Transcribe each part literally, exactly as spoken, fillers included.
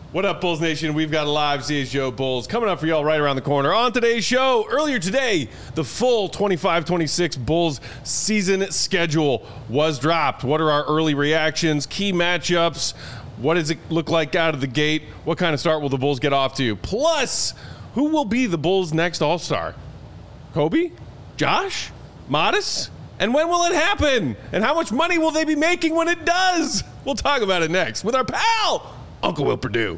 What up, Bulls Nation? We've got a live C H G O Bulls coming up for y'all right around the corner. On today's show, earlier today, the full twenty-five twenty-six Bulls season schedule was dropped. What are our early reactions, key matchups? What does it look like out of the gate? What kind of start will the Bulls get off to? Plus, who will be the Bulls' next All-Star? Kobe? Josh? Modest? And when will it happen? And how much money will they be making when it does? We'll talk about it next with our pal, Uncle Will Perdue.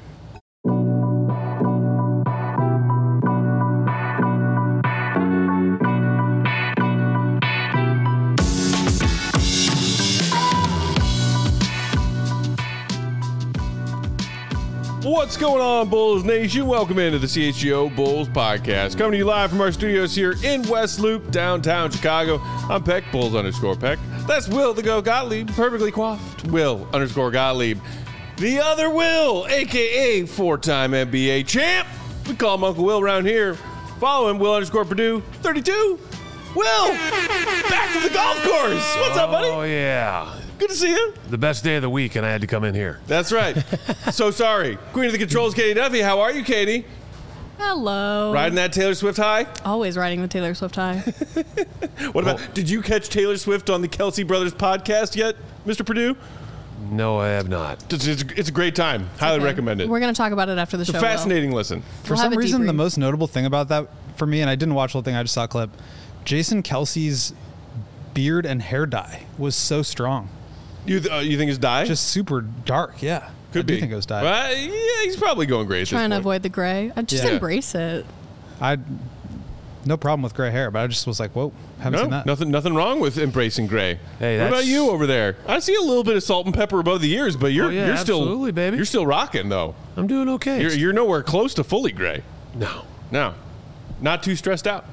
What's going on, Bulls Nation? Welcome into the C H G O Bulls podcast. Coming to you live from our studios here in West Loop, downtown Chicago. I'm Peck, Bulls underscore Peck. That's Will the Go Gottlieb, perfectly coiffed Will underscore Gottlieb. The other Will, a k a four-time N B A champ. We call him Uncle Will around here. Follow him, Will underscore Perdue, thirty-two. Will, back to the golf course. What's up, buddy? Oh, yeah. Good to see you. The best day of the week, and I had to come in here. That's right. So sorry. Queen of the Controls, Katie Duffy. How are you, Katie? Hello. Riding that Taylor Swift high? Always riding the Taylor Swift high. What about, well, did you catch Taylor Swift on the Kelsey Brothers podcast yet, Mister Perdue? No, I have not. It's, it's, it's a great time. It's Highly okay. recommend it. We're going to talk about it after the it's show. It's a fascinating Will. listen. For we'll some reason, the most notable thing about that for me, and I didn't watch the whole thing, I just saw a clip, Jason Kelsey's beard and hair dye was so strong. You th- uh, you think it's dye? Just super dark, yeah. Could I be. do think it was dye. Well, yeah, he's probably going gray at Trying this to avoid the gray. I just yeah. embrace it. I no problem with gray hair, but I just was like, whoa, haven't no, seen that. Nothing, nothing wrong with embracing gray. Hey, what that's... about you over there? I see a little bit of salt and pepper above the ears, but you're oh, yeah, you're still absolutely, baby. You're still rocking though. I'm doing okay. You're, you're nowhere close to fully gray. No, no, not too stressed out.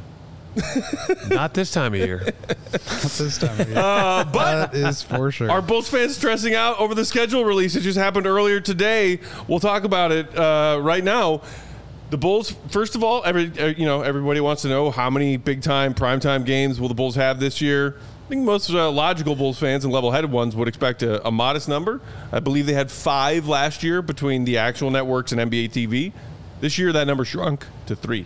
Not this time of year. Not this time of year. Uh, but that is for sure. Are Bulls fans stressing out over the schedule release? It just happened earlier today. We'll talk about it uh, right now. The Bulls, first of all, every uh, you know everybody wants to know how many big time, prime time games will the Bulls have this year. I think most uh, logical Bulls fans and level-headed ones would expect a, a modest number. I believe they had five last year between the actual networks and N B A T V. This year, that number shrunk to three.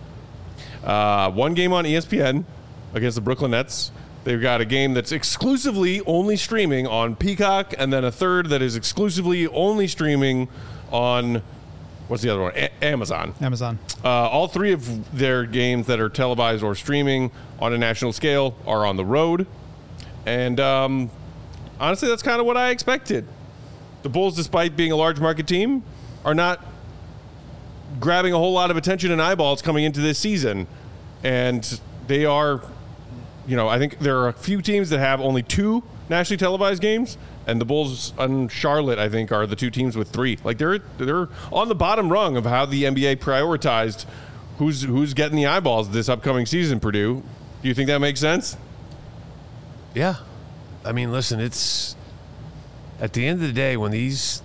Uh, one game on E S P N against the Brooklyn Nets. They've got a game that's exclusively only streaming on Peacock, and then a third that is exclusively only streaming on, what's the other one? A- Amazon. Amazon. Uh, all three of their games that are televised or streaming on a national scale are on the road. And um, honestly, that's kind of what I expected. The Bulls, despite being a large market team, are not grabbing a whole lot of attention and eyeballs coming into this season. And they are, you know, I think there are a few teams that have only two nationally televised games, and the Bulls and Charlotte, I think, are the two teams with three. Like, they're they're on the bottom rung of how the N B A prioritized who's who's getting the eyeballs this upcoming season, Purdue. Do you think that makes sense? Yeah. I mean, listen, it's at the end of the day when these,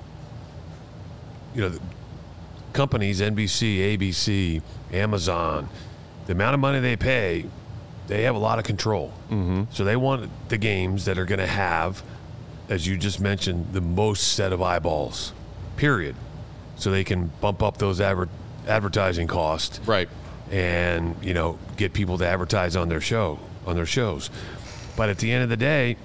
you know, companies, N B C, A B C, Amazon, the amount of money they pay, they have a lot of control. Mm-hmm. So they want the games that are going to have, as you just mentioned, the most set of eyeballs, period. So they can bump up those adver- advertising costs. Right. And, you know, get people to advertise on their show, on their shows. But at the end of the day,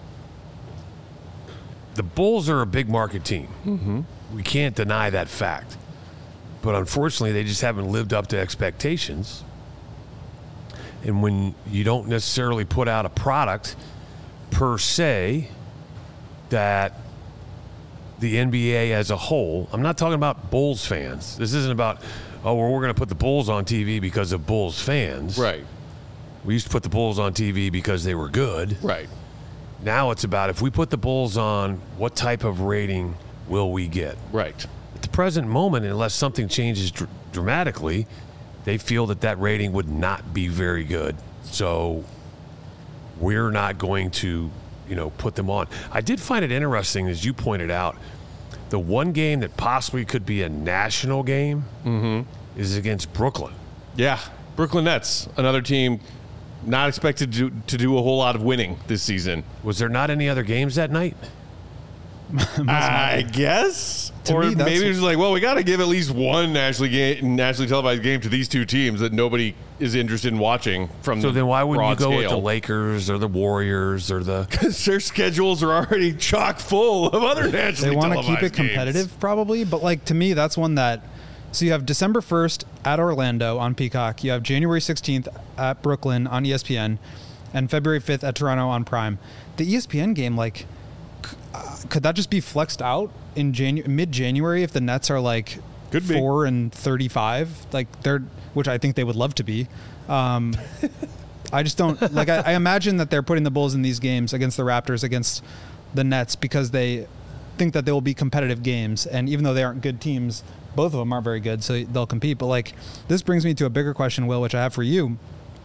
the Bulls are a big market team. Mm-hmm. We can't deny that fact. But unfortunately, they just haven't lived up to expectations. And when you don't necessarily put out a product per se that the N B A as a whole, I'm not talking about Bulls fans. This isn't about, oh, well, we're going to put the Bulls on T V because of Bulls fans. Right. We used to put the Bulls on T V because they were good. Right. Now it's about if we put the Bulls on, what type of rating will we get? Right. At the present moment, unless something changes dr- dramatically, they feel that that rating would not be very good. So we're not going to, you know, put them on. I did find it interesting, as you pointed out, the one game that possibly could be a national game mm-hmm. is against Brooklyn. Yeah. Brooklyn Nets, another team not expected to, to do a whole lot of winning this season. Was there not any other games that night? I guess. To or me, that's- maybe it's like, well, we got to give at least one nationally game, nationally televised game to these two teams that nobody is interested in watching from So the then why wouldn't you broad go with the scale. Lakers or the Warriors or the? Because their schedules are already chock full of other nationally They want to televised keep it competitive, games. probably. But like to me, that's one that. So you have December first at Orlando on Peacock. You have January sixteenth at Brooklyn on E S P N, and February fifth at Toronto on Prime. The E S P N game, like, c- uh, could that just be flexed out in Janu- mid-January if the Nets are like Could be. four and thirty-five, like they're, which I think they would love to be. Um, I just don't like. I, I imagine that they're putting the Bulls in these games against the Raptors, against the Nets, because they think that they will be competitive games, and even though they aren't good teams, both of them aren't very good, so they'll compete. But like, this brings me to a bigger question, Will, which I have for you.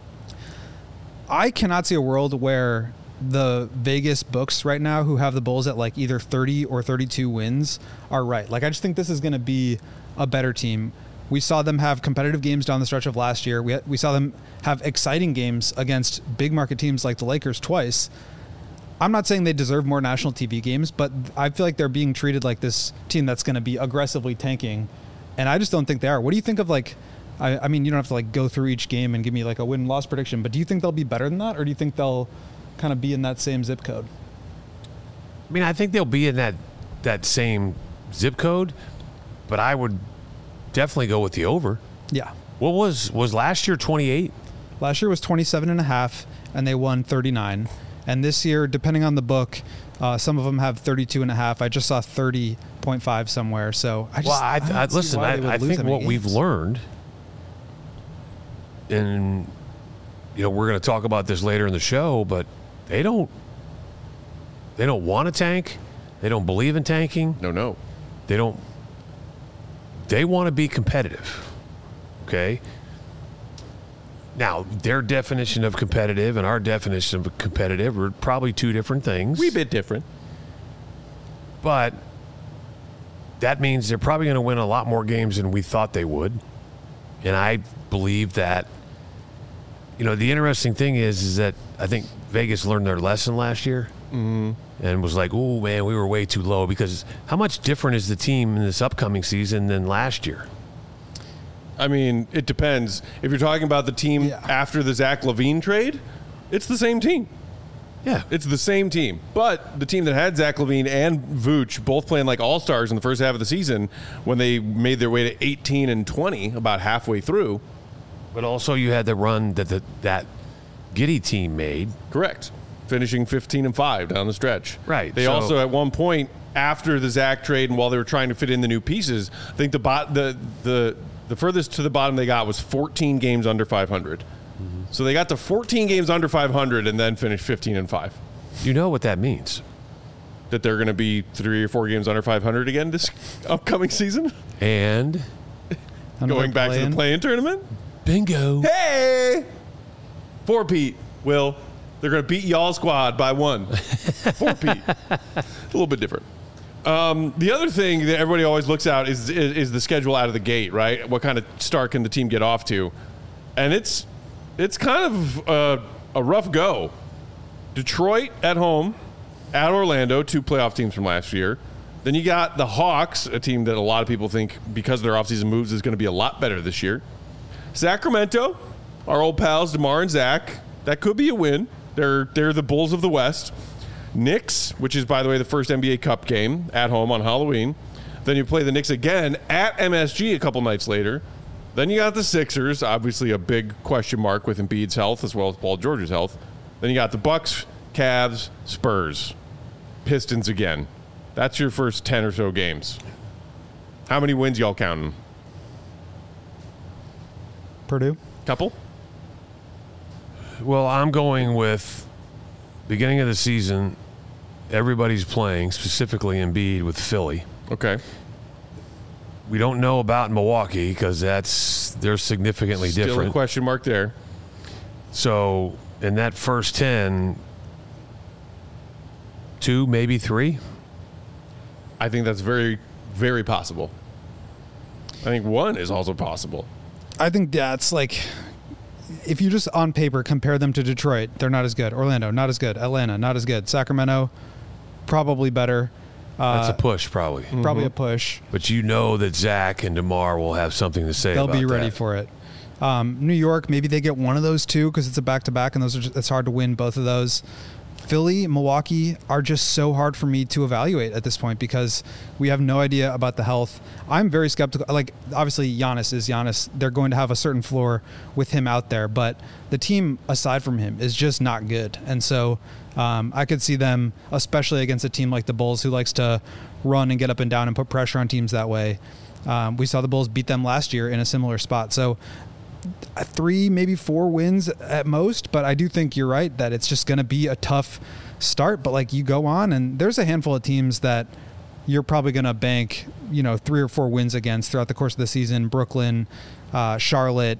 I cannot see a world where the Vegas books right now, who have the Bulls at like either thirty or thirty-two wins, are right. Like, I just think this is going to be a better team. We saw them have competitive games down the stretch of last year. We we saw them have exciting games against big market teams like the Lakers twice. I'm not saying they deserve more national T V games, but I feel like they're being treated like this team that's going to be aggressively tanking, and I just don't think they are. What do you think of like? I, I mean, you don't have to like go through each game and give me like a win-loss prediction, but do you think they'll be better than that, or do you think they'll kind of be in that same zip code? I mean, I think they'll be in that that same zip code, but I would definitely go with the over. Yeah. What was was last year twenty-eight? Last year was twenty-seven and a half, and they won thirty-nine. And this year, depending on the book, uh, some of them have thirty-two and a half. I just saw thirty point five somewhere. So I just, Well, I, I, don't I, see listen. why they would I, I lose think that many what we've games. learned, and you know, we're going to talk about this later in the show, but they don't they don't want to tank. They don't believe in tanking. No, no. They don't. They want to be competitive. Okay. Now, their definition of competitive and our definition of competitive are probably two different things. Wee bit different. But that means they're probably going to win a lot more games than we thought they would. And I believe that, you know, the interesting thing is, is that I think Vegas learned their lesson last year Mm-hmm. and was like, oh, man, we were way too low. Because how much different is the team in this upcoming season than last year? I mean, it depends. If you're talking about the team Yeah. after the Zach LaVine trade, it's the same team. Yeah. It's the same team. But the team that had Zach LaVine and Vooch both playing like all-stars in the first half of the season, when they made their way to eighteen and twenty about halfway through. But also you had the run that the, that Giddey team made. Correct. Finishing fifteen and five down the stretch. Right, They so- also, at one point, after the Zach trade and while they were trying to fit in the new pieces, I think the bot, the the the furthest to the bottom they got was fourteen games under five hundred. Mm-hmm. So they got to fourteen games under five hundred and then finished fifteen and five. You know what that means. That they're going to be three or four games under five hundred again this upcoming season? And Another Going back to play-in. the play-in tournament? bingo. Hey! Four Pete, Will. They're going to beat y'all squad by one. Four Pete. A little bit different. Um, the other thing that everybody always looks at is, is is the schedule out of the gate, right? What kind of start can the team get off to? And it's it's kind of a, a rough go. Detroit at home, at Orlando, two playoff teams from last year. Then you got the Hawks, a team that a lot of people think, because of their offseason moves, is going to be a lot better this year. Sacramento, our old pals, DeMar and Zach. That could be a win. They're they're the Bulls of the West. Knicks, which is, by the way, the first N B A Cup game at home on Halloween. Then you play the Knicks again at M S G a couple nights later. Then you got the Sixers, obviously a big question mark with Embiid's health as well as Paul George's health. Then you got the Bucks, Cavs, Spurs, Pistons again. That's your first ten or so games. How many wins y'all counting? Purdue. Couple? Well, I'm going with beginning of the season, everybody's playing, specifically Embiid with Philly. Okay. We don't know about Milwaukee because that's they're significantly Still different. a question mark there. So in that first ten, two, maybe three. I think that's very, very possible. I think one is also possible. I think that's like, if you just on paper compare them to Detroit, they're not as good. Orlando, not as good. Atlanta, not as good. Sacramento, probably better. That's a push, probably. Probably a push. But you know that Zach and DeMar will have something to say They'll about be ready that. for it. Um, New York, maybe they get one of those two because it's a back-to-back, and those are just, it's hard to win both of those. Philly, Milwaukee are just so hard for me to evaluate at this point because we have no idea about the health. I'm very skeptical. Like, obviously, Giannis is Giannis. They're going to have a certain floor with him out there, but the team, aside from him, is just not good. And so um, I could see them, especially against a team like the Bulls, who likes to run and get up and down and put pressure on teams that way. Um, we saw the Bulls beat them last year in a similar spot. So three, maybe four wins at most, but I do think you're right that it's just going to be a tough start. But like, you go on and there's a handful of teams that you're probably going to bank, you know, three or four wins against throughout the course of the season. Brooklyn, uh, Charlotte,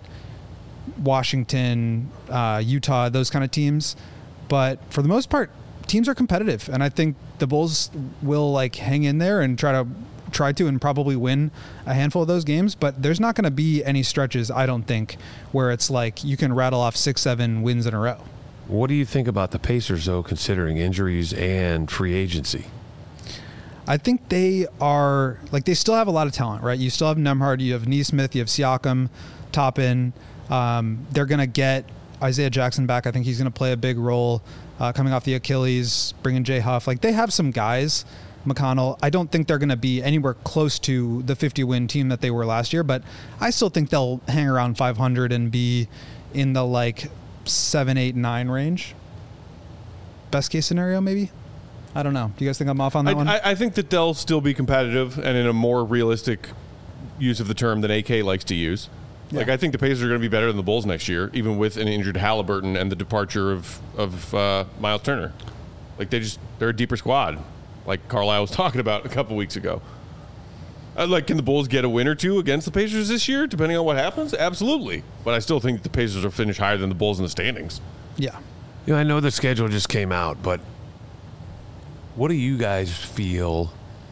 Washington, uh, Utah, those kind of teams. But for the most part, teams are competitive, and I think the Bulls will like hang in there and try to try to and probably win a handful of those games, but there's not going to be any stretches, I don't think, where it's like you can rattle off six, seven wins in a row. What do you think about the Pacers, though, considering injuries and free agency? I think they are, like, they still have a lot of talent, right? You still have Nembhard, you have Nesmith, you have Siakam, Toppin. Um, they're going to get Isaiah Jackson back. I think he's going to play a big role uh, coming off the Achilles, bringing Jay Huff. Like, they have some guys. McConnell, I don't think they're going to be anywhere close to the fifty-win team that they were last year, but I still think they'll hang around five hundred and be in the, like, seven, eight, nine range. Best case scenario, maybe? I don't know. Do you guys think I'm off on that I, one? I, I think that they'll still be competitive and in a more realistic use of the term than A K likes to use. Yeah. Like, I think the Pacers are going to be better than the Bulls next year, even with an injured Halliburton and the departure of, of uh, Miles Turner. Like, they just, they're a deeper squad, like Carlisle was talking about a couple weeks ago. Uh, like, can the Bulls get a win or two against the Pacers this year, depending on what happens? Absolutely. But I still think the Pacers will finish higher than the Bulls in the standings. yeah. You know, I know the schedule just came out, but what do you guys feel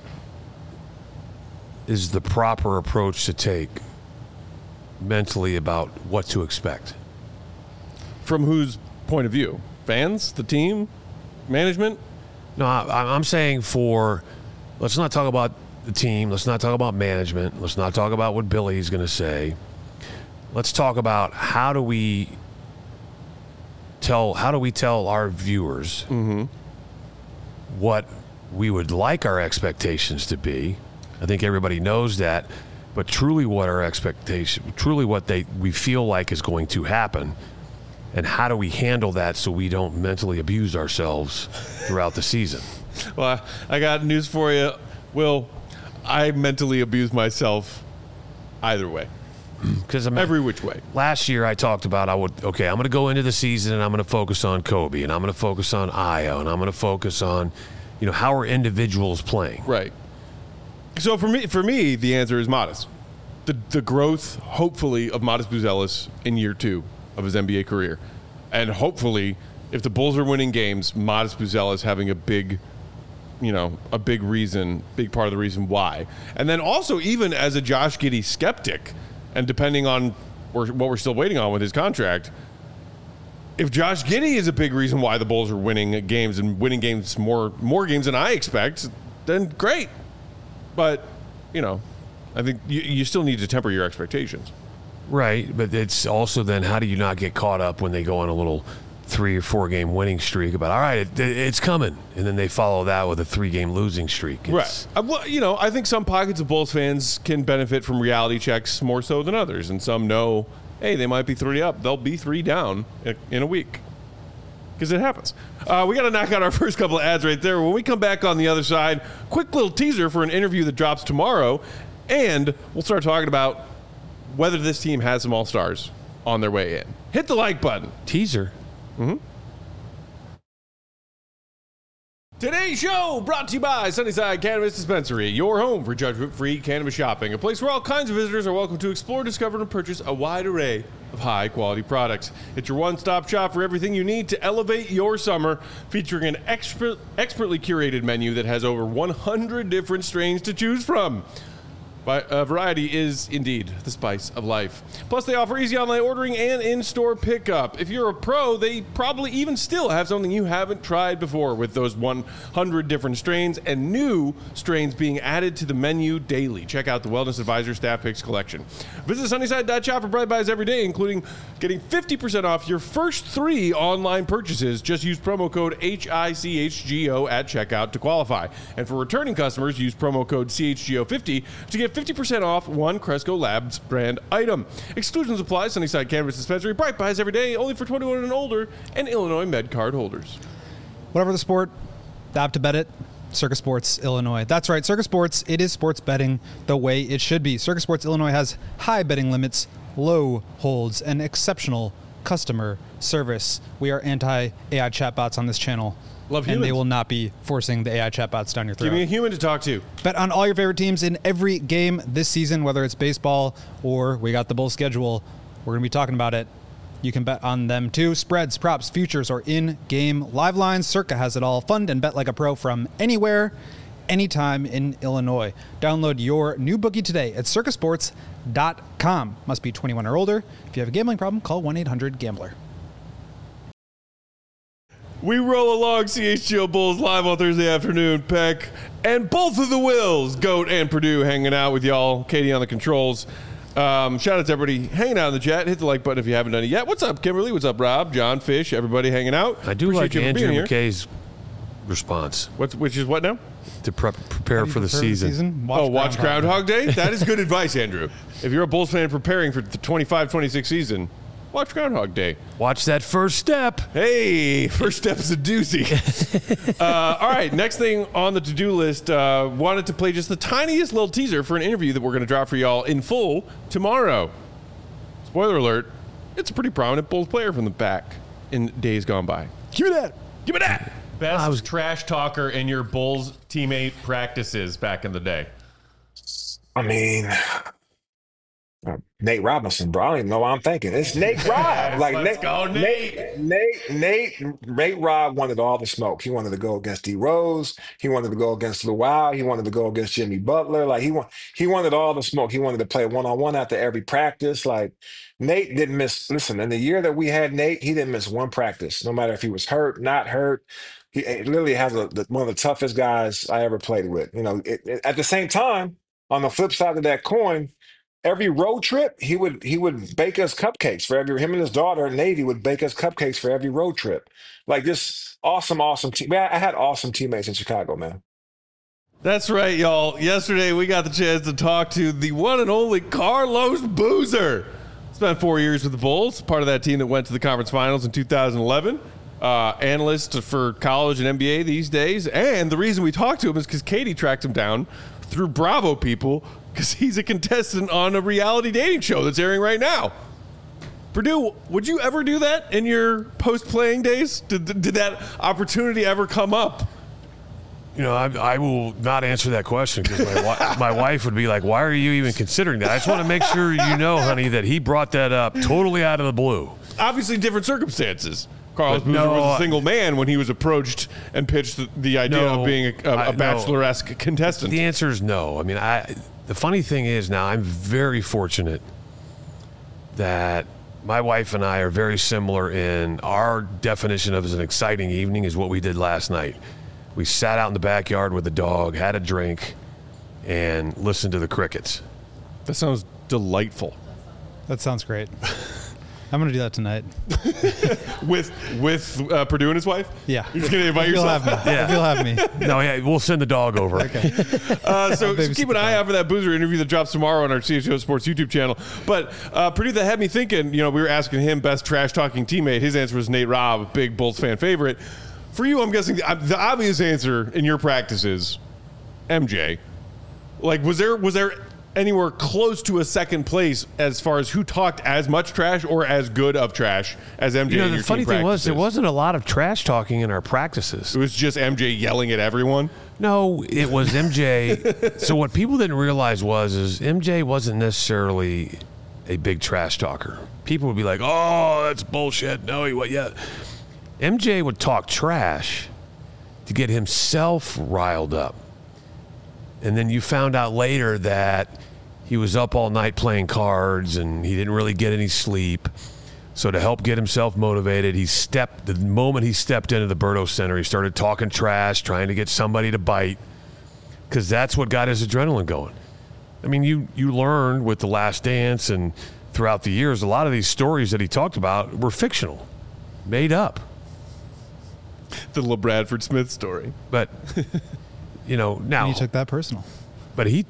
is the proper approach to take mentally about what to expect? From whose point of view? Fans? The team? Management? No, I, I'm saying for, let's not talk about the team. Let's not talk about management. Let's not talk about what Billy's going to say. Let's talk about how do we tell, how do we tell our viewers Mm-hmm. what we would like our expectations to be. I think everybody knows that, but truly what our expectation, truly what they we feel like is going to happen, and how do we handle that so we don't mentally abuse ourselves throughout the season? Well, I got news for you. Will, I mentally abuse myself either way, Because every which way. last year I talked about I would okay I'm going to go into the season and I'm going to focus on Kobe and I'm going to focus on Io and I'm going to focus on, you know, how are individuals playing. Right. So for me, for me, the answer is Modest. The the growth, hopefully, of Modest Buzelis in year two of his N B A career, and hopefully, if the Bulls are winning games, Modest Buzelis having a big, you know, a big reason, big part of the reason why. And then also, even as a Josh Giddey skeptic, and depending on what we're still waiting on with his contract, if Josh Giddey is a big reason why the Bulls are winning games and winning games more more games than I expect, then great. But, you know, I think you, you still need to temper your expectations. Right, but it's also then how do you not get caught up when they go on a little three or four game winning streak about, all right, it, it's coming, and then they follow that with a three game losing streak. It's, Right. Uh, well, you know, I think some pockets of Bulls fans can benefit from reality checks more so than others, and some know, hey, they might be three up. They'll be three down in, in a week. Because it happens. Uh, we got to knock out our first couple of ads right there. When we come back on the other side, quick little teaser for an interview that drops tomorrow, and we'll start talking about whether this team has some all-stars on their way in. Hit the like button. Teaser. Mm-hmm. Today's show brought to you by Sunnyside Cannabis Dispensary, your home for judgment-free cannabis shopping, a place where all kinds of visitors are welcome to explore, discover, and purchase a wide array of high-quality products. It's your one-stop shop for everything you need to elevate your summer, featuring an expert, expertly curated menu that has over one hundred different strains to choose from. But, uh, variety is indeed the spice of life. Plus, they offer easy online ordering and in-store pickup. If you're a pro, they probably even still have something you haven't tried before with those one hundred different strains and new strains being added to the menu daily. Check out the Wellness Advisor Staff Picks collection. Visit Sunnyside dot shop for Bright Buys every day, including getting fifty percent off your first three online purchases. Just use promo code H I C H G O at checkout to qualify. And for returning customers, use promo code C H G O fifty to get fifty percent off one Cresco Labs brand item. Exclusions apply. Sunnyside Cannabis Dispensary. Bright Buys every day, only for twenty-one and older, and Illinois Med Card holders. Whatever the sport, the app to bet it, Circus Sports Illinois. That's right, Circus Sports, it is sports betting the way it should be. Circus Sports Illinois has high betting limits, low holds, and exceptional customer service. We are anti-A I chatbots on this channel. Love and humans. they will not be forcing the A I chatbots down your throat. Give me a human to talk to. Bet on all your favorite teams in every game this season, whether it's baseball or we got the Bulls schedule. We're going to be talking about it. You can bet on them too. Spreads, props, futures, or in-game live lines. Circa has it all. Fund and bet like a pro from anywhere, anytime in Illinois. Download your new bookie today at circa sports dot com. Must be twenty-one or older. If you have a gambling problem, call one eight hundred gambler. We roll along C H G O Bulls live on Thursday afternoon. Peck and both of the Wills, Goat and Purdue, hanging out with y'all. Katie on the controls. Um, shout out to everybody hanging out in the chat. Hit the like button if you haven't done it yet. What's up, Kimberly? What's up, Rob? John, Fish, everybody hanging out. I do Appreciate like you for Andrew being here. McKay's response What's, which is what now? to prep, prepare for the season. oh, watch Groundhog Day? That is good advice, Andrew. If you're a Bulls fan preparing for the twenty-five twenty-six season, watch Groundhog Day. Watch that first step. Hey, first step's a doozy. uh, all right, next thing on the to-do list, uh, wanted to play just the tiniest little teaser for an interview that we're going to drop for y'all in full tomorrow. Spoiler alert, it's a pretty prominent Bulls player from the back in days gone by. Give me that. Give me that. Best I was- trash talker in your Bulls teammate practices back in the day. I mean, uh, Nate Robinson, bro. I don't even know what I'm thinking. It's Nate Robb. Like Let's Nate, go, Nate, Nate, Nate, Nate Robb wanted all the smoke. He wanted to go against D Rose. He wanted to go against Luau. He wanted to go against Jimmy Butler. Like he want, he wanted all the smoke. He wanted to play one on one after every practice. Like Nate didn't miss. Listen, in the year that we had Nate, he didn't miss one practice, no matter if he was hurt, not hurt. He it literally has a, the, one of the toughest guys I ever played with. You know, it, it, at the same time, on the flip side of that coin, every road trip, he would he would bake us cupcakes for every him and his daughter, Navy, would bake us cupcakes for every road trip. Like this awesome, awesome team. Man, I had awesome teammates in Chicago, man. That's right, y'all. Yesterday, we got the chance to talk to the one and only Carlos Boozer. Spent four years with the Bulls, part of that team that went to the conference finals in two thousand eleven. Uh, analyst for college and N B A these days. And the reason we talked to him is because Katie tracked him down through Bravo people because he's a contestant on a reality dating show that's airing right now. Purdue, would you ever do that in your post-playing days? Did, did that opportunity ever come up? You know, I, I will not answer that question because my, wi- my wife would be like, why are you even considering that? I just want to make sure you know, honey, that he brought that up totally out of the blue. Obviously different circumstances. Carlos But Boozer no, was a single man when he was approached and pitched the, the idea No, of being a, a, I- a no. bachelor-esque contestant. The answer is no. I mean, I. The funny thing is now I'm very fortunate that my wife and I are very similar in our definition of as an exciting evening is what we did last night. We sat out in the backyard with the dog, had a drink, and listened to the crickets. That sounds delightful. That sounds great. I'm going to do that tonight. With with uh, Purdue and his wife? Yeah. You're just going to invite If you'll yourself? have me. Yeah. If you'll have me. No, yeah, we'll send the dog over. Okay. Uh, so, so babysit keep an the eye dog. out for that Boozer interview that drops tomorrow on our C H O Sports YouTube channel. But uh, Purdue, that had me thinking, you know, we were asking him best trash-talking teammate. His answer was Nate Robb, big Bulls fan favorite. For you, I'm guessing the, the obvious answer in your practice is M J. Like, was there was there anywhere close to a second place as far as who talked as much trash or as good of trash as M J You know, in the your funny team thing was, there practices? wasn't a lot of trash talking in our practices. It was just M J yelling at everyone. No, it was M J. So what people didn't realize was, is M J wasn't necessarily a big trash talker. People would be like, "Oh, that's bullshit." No, he was. Yeah, M J would talk trash to get himself riled up, and then you found out later that he was up all night playing cards, and he didn't really get any sleep. So to help get himself motivated, he stepped, the moment he stepped into the Berto Center, he started talking trash, trying to get somebody to bite, because that's what got his adrenaline going. I mean, you, you learn with The Last Dance and throughout the years, a lot of these stories that he talked about were fictional, made up. The LeBradford Smith story. But, you know, now. And he took that personal. But he,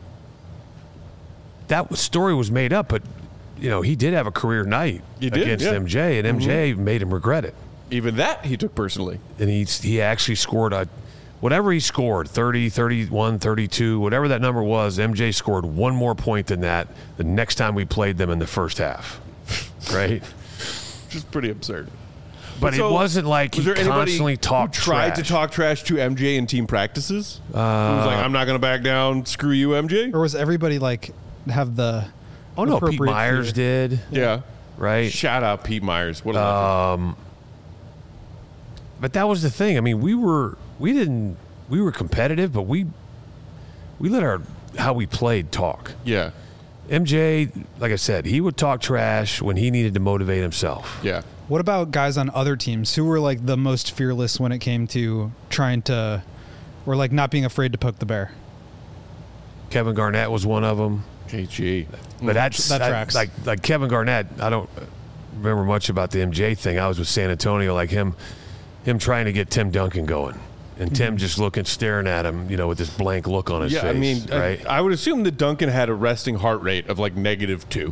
that story was made up, but, you know, he did have a career night He did, against yeah. M J, and M J Mm-hmm. made him regret it. Even that he took personally. And he, he actually scored a, whatever he scored, thirty, thirty-one, thirty-two, whatever that number was, M J scored one more point than that the next time we played them in the first half. Right? Which is pretty absurd. But So, it wasn't like was he there anybody constantly talked who tried trash. to talk trash to M J in team practices? Uh, Who was like, I'm not going to back down. Screw you, M J. Or was everybody like have the? Oh, no, Pete appropriate Myers fear? did, Yeah. right? Shout out Pete Myers. What a Uh, legend. But that was the thing. I mean, we were we didn't we were competitive, but we we let our how we played talk. Yeah. M J, like I said, he would talk trash when he needed to motivate himself. Yeah. What about guys on other teams who were like the most fearless when it came to trying to, or like not being afraid to poke the bear? Kevin Garnett was one of them. K G. But that's That that- tracks. like like Kevin Garnett. I don't remember much about the M J thing. I was with San Antonio, like him, him trying to get Tim Duncan going, and Tim just looking, staring at him, you know, with this blank look on his Yeah, face. I mean, right? I, I would assume that Duncan had a resting heart rate of like negative two.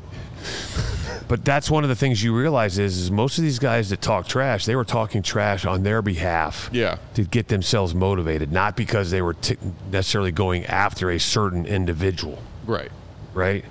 But that's one of the things you realize is, is most of these guys that talk trash, they were talking trash on their behalf. Yeah. To get themselves motivated, not because they were t- necessarily going after a certain individual. Right. Right?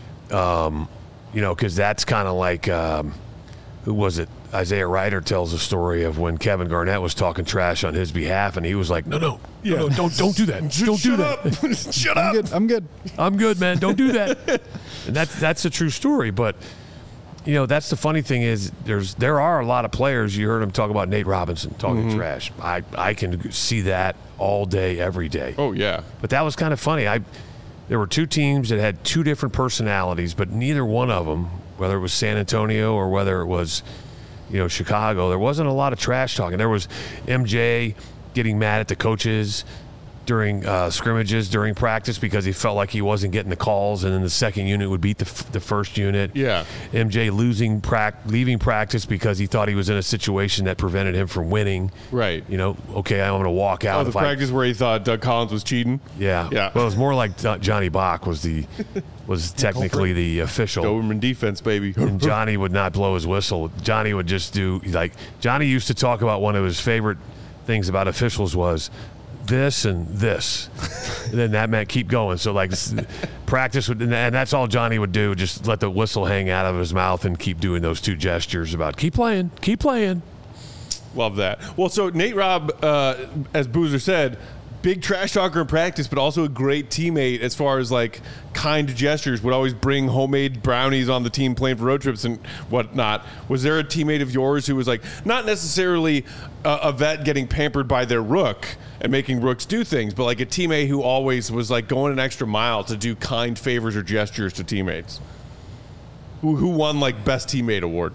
Um, you know, because that's kind of like, um, who was it? Isaiah Ryder tells a story of when Kevin Garnett was talking trash on his behalf, and he was like, no, no, no, no, don't, don't do that. Don't do that. Shut I'm up. good. I'm good. I'm good, man. Don't do that. And that's, that's a true story. But, you know, that's the funny thing is there's there are a lot of players. You heard him talk about Nate Robinson talking Mm-hmm. trash. I, I can see that all day, every day. Oh, yeah. But that was kind of funny. I there were two teams that had two different personalities, but neither one of them, whether it was San Antonio or whether it was, you know, Chicago, there wasn't a lot of trash talking. There was M J getting mad at the coaches during uh, scrimmages, during practice, because he felt like he wasn't getting the calls, and then the second unit would beat the, f- the first unit. Yeah. M J losing prac- leaving practice because he thought he was in a situation that prevented him from winning. Right. You know, okay, I'm going to walk out. Oh, the if I- practice where he thought Doug Collins was cheating. yeah. Yeah. Well, it was more like Jo- Johnny Bach was the was technically the official. Doberman defense, baby. And Johnny would not blow his whistle. Johnny would just do like Johnny used to talk about one of his favorite things about officials was this and this. And then that meant keep going. So like s- practice would, and that's all Johnny would do, just let the whistle hang out of his mouth and keep doing those two gestures about keep playing, keep playing. Love that. Well, so Nate Robb, uh, as Boozer said, big trash talker in practice, but also a great teammate as far as like kind gestures. Would always bring homemade brownies on the team playing for road trips and whatnot. Was there a teammate of yours who was like not necessarily a, a vet getting pampered by their rook and making rooks do things, but like a teammate who always was like going an extra mile to do kind favors or gestures to teammates? Who who won like best teammate award?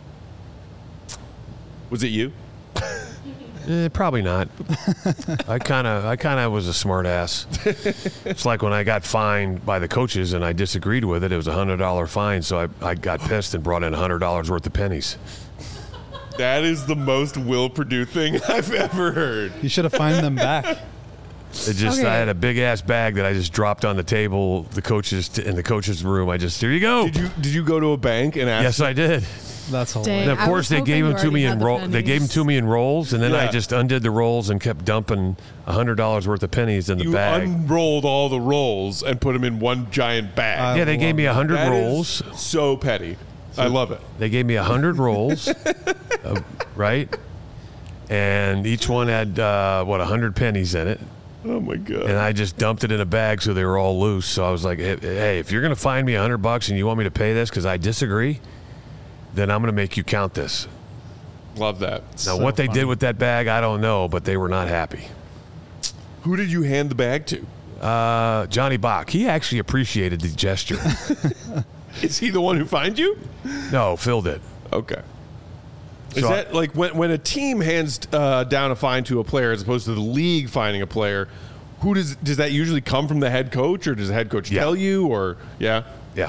Was it you? Eh, probably not. I kind of, I kind of was a smart ass. It's like when I got fined by the coaches and I disagreed with it. It was a hundred dollar fine, so I, I got pissed and brought in a hundred dollars worth of pennies. That is the most Will Purdue thing I've ever heard. You should have fined them back. It just, Okay. I had a big ass bag that I just dropped on the table. The coaches t- in the coaches' room. I just, here you go. Did you did you go to a bank and ask? Yes, I did. That's Dang. hilarious. And of I course, was they hoping gave you them to me already in had the roll. They gave them pennies. to me in rolls, and then I Yeah. just undid the rolls and kept dumping a hundred dollars worth of pennies in the You bag. unrolled all the rolls and put them in one giant bag. Uh, yeah, they gave me a hundred That is rolls. so petty. I love it. They gave me a hundred rolls, uh, right? And each one had uh, what a hundred pennies in it, Oh my god. and I just dumped it in a bag so they were all loose. So I was like, "Hey, hey, if you're gonna fine me a hundred bucks and you want me to pay this because I disagree, then I'm gonna make you count this." Love that. Now, So what they funny. did with that bag, I don't know, but they were not happy. Who did you hand the bag to? Uh, Johnny Bach. He actually appreciated the gesture. Is he the one who fined you? No, Phil did. Okay. Is So I- that like when when a team hands uh, down a fine to a player as opposed to the league fining a player? Who does does that usually come from the head coach, or does the head coach Yeah. tell you, or yeah? Yeah.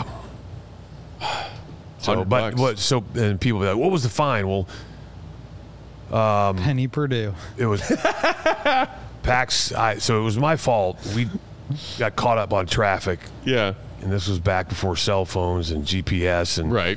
So, one hundred but bucks. what? So, and people be like, "What was the fine?" Well, Penny Purdue. it was Pax. I, so it was my fault. We got caught up on traffic, Yeah. and this was back before cell phones and G P S, and Right.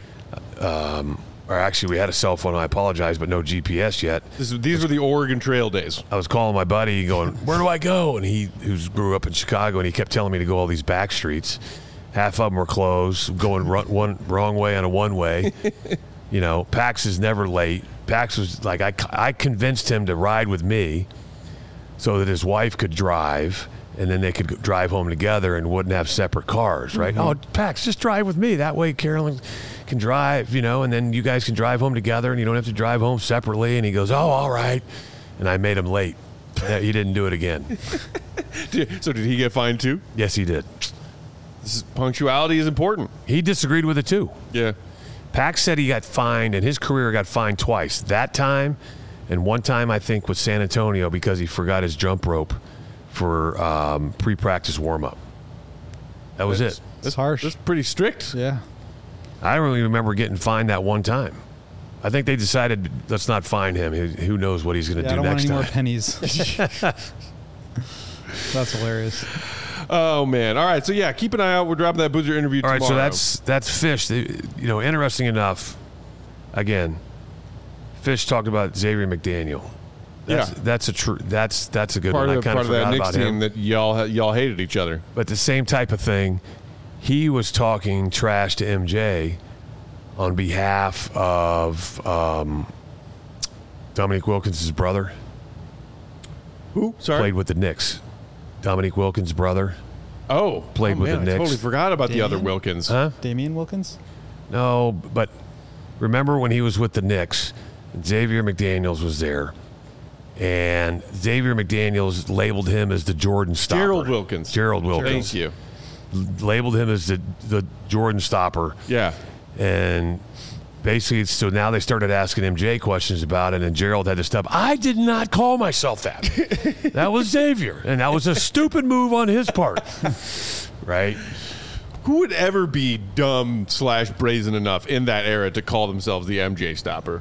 or actually, we had a cell phone. I apologize, but no G P S yet. This is, these were the Oregon Trail days. I was calling my buddy, going, "Where do I go?" And he, who grew up in Chicago, and he kept telling me to go all these back streets. Half of them were closed, going run, one wrong way on a one way. You know, Pax is never late. Pax was like, I, I convinced him to ride with me so that his wife could drive, and then they could go- drive home together and wouldn't have separate cars, right? Oh, Pax, just drive with me. That way Carolyn can drive, you know, and then you guys can drive home together, and you don't have to drive home separately. And he goes, oh, all right. And I made him late. Yeah, he didn't do it again. Did- So did he get fined too? Yes, he did. This is, punctuality is important. He disagreed with it too. Yeah. Pax said he got fined, and his career got fined twice. That time, and one time I think with San Antonio because he forgot his jump rope for um, pre-practice warm-up. That was That's- it. It's harsh. That's pretty strict. Yeah. I don't really remember getting fined that one time. I think they decided let's not fine him. Who who knows what he's going to Yeah, I do don't want next any time? more pennies. That's hilarious. Oh man! All right, so yeah, keep an eye out. We're dropping that Boozer interview All tomorrow. right, so that's that's Fish. The- You know, interesting enough. Again, Fish talked about Xavier McDaniel. That's, Yeah. that's a true. That's that's a good part one. of, I kind part of of that forgot Knicks about team him. that y'all y'all hated each other. But the same type of thing, he was talking trash to M J on behalf of um, Dominique Wilkins' brother. Who? Sorry. Played with the Knicks. Dominique Wilkins' brother. Oh, Played oh, with man, the I Knicks. totally forgot about the other Damian? Wilkins. Huh? Damian Wilkins? No, but remember when he was with the Knicks, Xavier McDaniels was there. And Xavier McDaniels labeled him as the Jordan stopper. Gerald Wilkins. Gerald Wilkins. Thank you. Labeled him as the, the Jordan stopper. Yeah. And basically, so now they started asking M J questions about it, and Gerald had to stop. I did not call myself that. That was Xavier, and that was a stupid move on his part. Right? Who would ever be dumb slash brazen enough in that era to call themselves the M J stopper?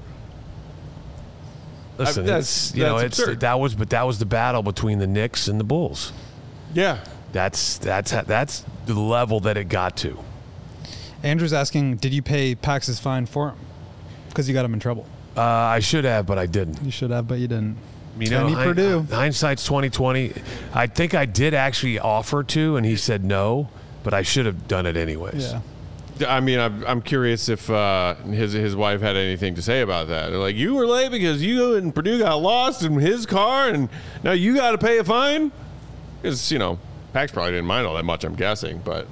Listen, I- that's- it's, you know, that's it's absurd. that was, but that was the battle between the Knicks and the Bulls. Yeah. That's that's that's the level that it got to. Andrew's asking, did you pay Pax's fine for him? Because you got him in trouble. Uh, I should have, but I didn't. You should have, but you didn't. You know, Penny hind- Purdue. hindsight's twenty twenty. I think I did actually offer to, and he said no, but I should have done it anyways. Yeah. I mean, I'm, I'm curious if uh, his his wife had anything to say about that. They're like, you were late because you and Purdue got lost in his car, and now you got to pay a fine? Because, you know, Pax probably didn't mind all that much, I'm guessing. But,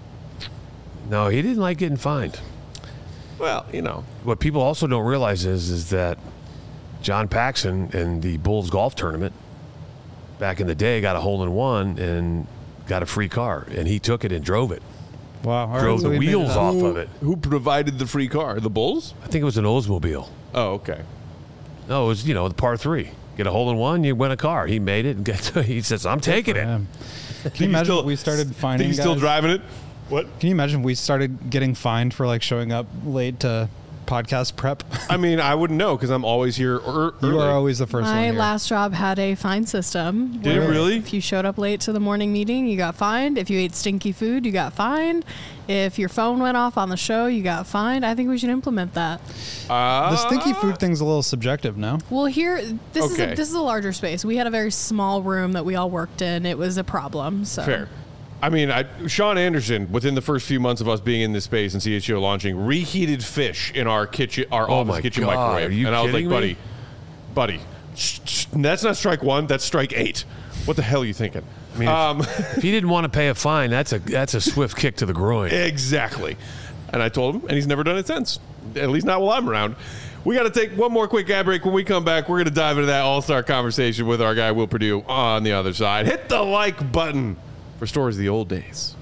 No, he didn't like getting fined. well, you know. What people also don't realize is is that John Paxson in the Bulls golf tournament back in the day got a hole in one and got a free car, and he took it and drove it. Wow. All right, Drove so the we made it wheels up. off Who, of it. who provided the free car? The Bulls? I think it was an Oldsmobile. Oh, okay. No, it was, you know, the par three. Get a hole in one, you win a car. He made it. And get to, he says, I'm taking it. Yeah. Can you imagine still- if we started Think finding he's still guys? driving it? What? Can you imagine if we started getting fined for like showing up late to podcast prep? I mean, I wouldn't know because I'm always here er- You early. are always the first one My here. last job had a fine system. Did it where really? If you showed up late to the morning meeting, you got fined. If you ate stinky food, you got fined. If your phone went off on the show, you got fined. I think we should implement that. Uh, The stinky food thing's a little subjective, no? Well, here, this is Okay. a, this is a larger space. We had a very small room that we all worked in. It was a problem. So Fair. I mean, I, Sean Anderson, within the first few months of us being in this space and C H G O launching, reheated fish in our kitchen, our Oh office my kitchen God, microwave. are you and I was like, kidding buddy, me? buddy, sh- sh- that's not strike one, that's strike eight. What the hell are you thinking? I mean, um, if, if he didn't want to pay a fine, that's a that's a swift kick to the groin. exactly. And I told him, and he's never done it since. At least not while I'm around. We got to take one more quick ad break. When we come back, we're going to dive into that all-star conversation with our guy, Will Purdue, on the other side. Hit the like button for restores the old days.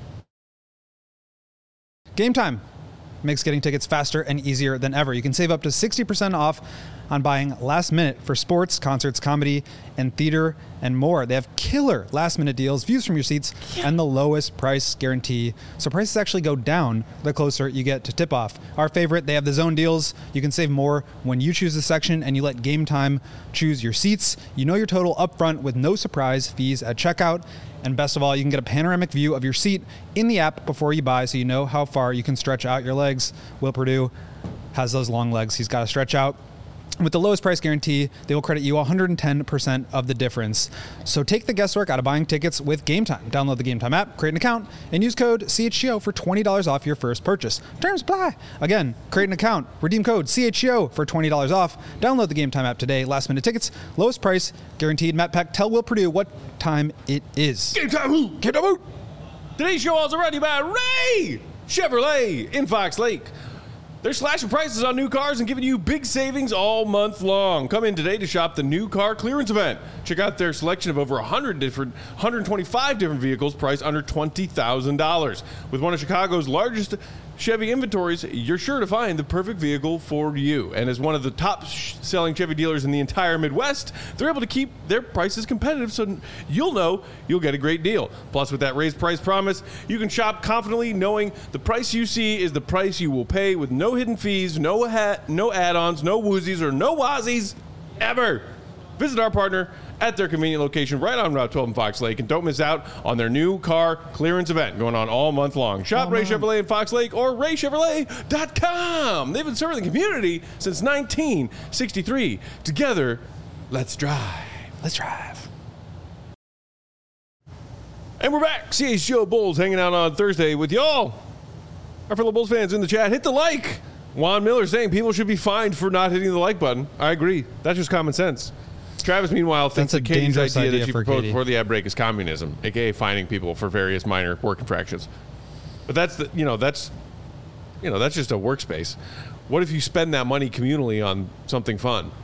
Game Time makes getting tickets faster and easier than ever. You can save up to sixty percent off on buying last minute for sports, concerts, comedy, and theater, and more. They have killer last minute deals, views from your seats, and the lowest price guarantee. So prices actually go down the closer you get to tip off. Our favorite, they have the zone deals. You can save more when you choose the section and you let Game Time choose your seats. You know your total upfront with no surprise fees at checkout. And best of all, you can get a panoramic view of your seat in the app before you buy, so you know how far you can stretch out your legs. Will Purdue has those long legs he's got to stretch out. With the lowest price guarantee, they will credit you one hundred ten percent of the difference. So take the guesswork out of buying tickets with Game Time. Download the Game Time app, create an account, and use code C H G O for twenty dollars off your first purchase. Terms apply. Again, create an account, redeem code C H G O for twenty dollars off. Download the Game Time app today. Last minute tickets, lowest price, guaranteed. Matt Peck, tell Will Purdue what time it is. Game Time Who? Game Time Who? Today's show also brought to you by Ray Chevrolet in Fox Lake. They're slashing prices on new cars and giving you big savings all month long. Come in today to shop the new car clearance event. Check out their selection of over one hundred different, one hundred twenty-five different vehicles priced under twenty thousand dollars. With one of Chicago's largest Chevy inventories, you're sure to find the perfect vehicle for you. And as one of the top sh- selling Chevy dealers in the entire Midwest, they're able to keep their prices competitive, so you'll know you'll get a great deal. Plus, with that raised price promise, you can shop confidently knowing the price you see is the price you will pay, with no hidden fees, no ha- no add-ons, no woozies, or no wazies ever. Visit our partner at their convenient location right on Route twelve in Fox Lake, and don't miss out on their new car clearance event going on all month long. Shop Ray Chevrolet in Fox Lake or ray chevrolet dot com. They've been serving the community since nineteen sixty-three. Together, let's drive. Let's drive. And we're back. C H G O Bulls hanging out on Thursday with y'all. Our fellow Bulls fans in the chat, hit the like. Juan Miller saying people should be fined for not hitting the like button. I agree. That's just common sense. Travis, meanwhile, thinks That's a that Katie's dangerous idea, idea that she for proposed Katie. before the ad break is communism, aka fining people for various minor work infractions. But that's the, you know, that's, you know, that's just a workspace. What if you spend that money communally on something fun?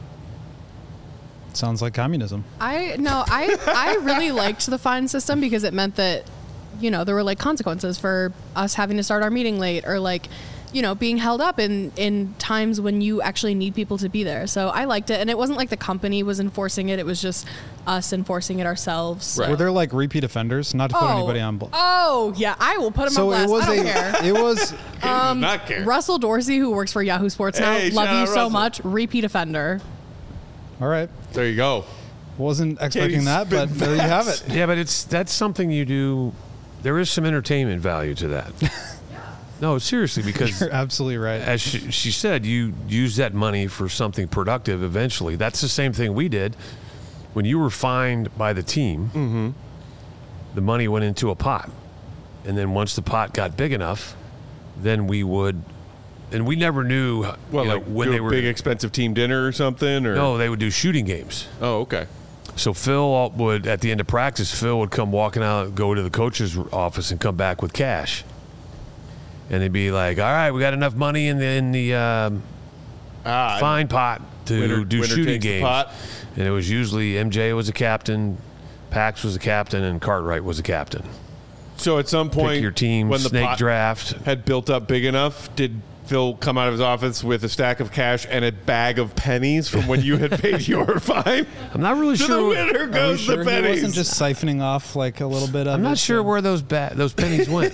Sounds like communism. I no, I I really liked the fine system because it meant that, you know, there were like consequences for us having to start our meeting late, or like, you know, being held up in, in times when you actually need people to be there. So I liked it. And it wasn't like the company was enforcing it. It was just us enforcing it ourselves. So. Right. Were there like repeat offenders? Not to put Oh, anybody on. Bl- oh, yeah. I will put them so on it blast. was I don't a. care. It was. Katie does not care. Russell Dorsey, who works for Yahoo Sports now, Hey, love shout you out so Russell. much. Repeat offender. All right. There you go. Wasn't expecting Katie's that, but spitting there you have it. Yeah, but it's that's something you do. There is some entertainment value to that. No, seriously, because You're absolutely right. as she, she said, you use that money for something productive eventually. That's the same thing we did. When you were fined by the team, Mm-hmm. the money went into a pot. And then once the pot got big enough, then we would, and we never knew Well, you know, like when do they a were. big expensive team dinner or something, or No, they would do shooting games. Oh, okay. So Phil would, at the end of practice, Phil would come walking out, go to the coach's office, and come back with cash. And they'd be like, "All right, we got enough money in the in the um, Ah, fine pot to Winner- do winner shooting takes the games." pot. And it was usually M J was a captain, Pax was a captain, and Cartwright was a captain. So at some point, Pick your team, when the snake pot draft. had built up big enough, did Phil come out of his office with a stack of cash and a bag of pennies from when you had paid your fine? I'm not really To sure. the what- winner Are we goes sure the he pennies. wasn't just siphoning off like a little bit of I'm it, not sure so- where those ba- those pennies went.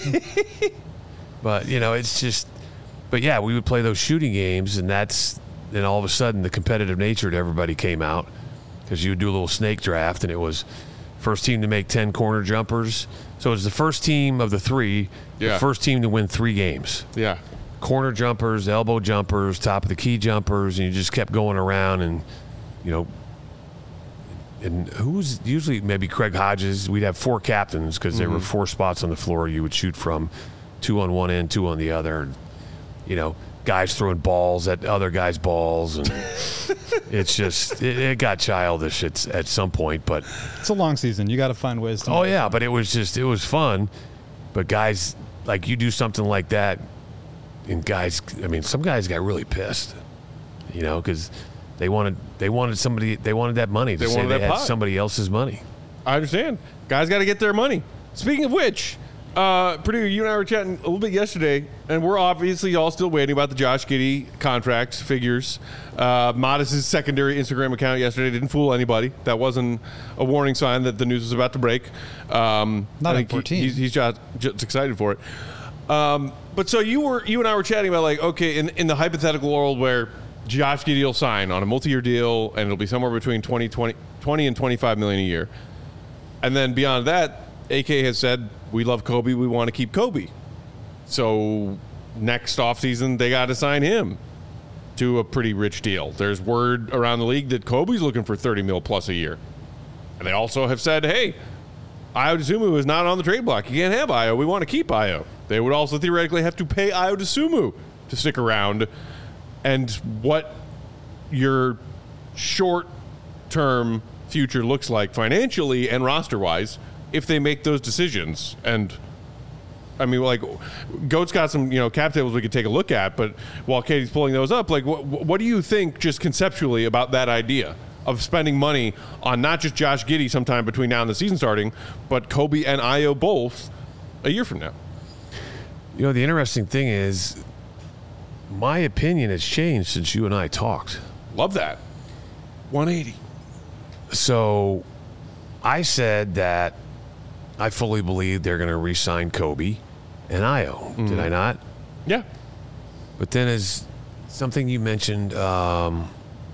But you know, it's just. But yeah, we would play those shooting games, and that's then all of a sudden the competitive nature to everybody came out, because you would do a little snake draft, and it was first team to make ten corner jumpers. So it was the first team of the three, Yeah. the first team to win three games. Yeah. Corner jumpers, elbow jumpers, top of the key jumpers, and you just kept going around, and you know. And who was usually maybe Craig Hodges? We'd have four captains because there were four spots on the floor you would shoot from, two on one end, two on the other. And, you know, guys throwing balls at other guys' balls, and it's just it, it got childish at at some point. But It's a long season. You got to find ways to. oh make it yeah, fun. but it was just it was fun. But guys, like you do something like that, and guys, I mean, some guys got really pissed, you know, because they wanted they wanted somebody they wanted that money to They say wanted they that had pot. somebody else's money. I understand. Guys got to get their money. Speaking of which, uh, Purdue, you and I were chatting a little bit yesterday, and we're obviously all still waiting about the Josh Giddey contract figures. Uh, Modest's secondary Instagram account yesterday didn't fool anybody. That wasn't a warning sign that the news was about to break. Um, Not I at think fourteen. He, he's, he's just, just excited for it. Um, but so you were, you and I were chatting about like, okay, in, in the hypothetical world where Josh Giddey will sign on a multi-year deal, and it'll be somewhere between twenty, twenty, twenty and twenty-five million a year, and then beyond that, A K has said, we love Kobe, we want to keep Kobe. So next offseason, they got to sign him to a pretty rich deal. There's word around the league that Kobe's looking for thirty mil plus a year. And they also have said, hey, Ayo Dosunmu is not on the trade block. You can't have Ayo. We want to keep Ayo. They would also theoretically have to pay Ayo Dosunmu to stick around. And what your short-term future looks like financially and roster-wise if they make those decisions. And I mean, like, Goat's got some, you know, cap tables we could take a look at, but while Katie's pulling those up, like, what, what do you think just conceptually about that idea of spending money on not just Josh Giddey sometime between now and the season starting, but Kobe and Ayo both a year from now? You know, the interesting thing is, my opinion has changed since you and I talked. Love that. one eighty. So I said that I fully believe they're going to re-sign Kobe and Ayo. Mm-hmm. Did I not? Yeah. But then as something you mentioned, um,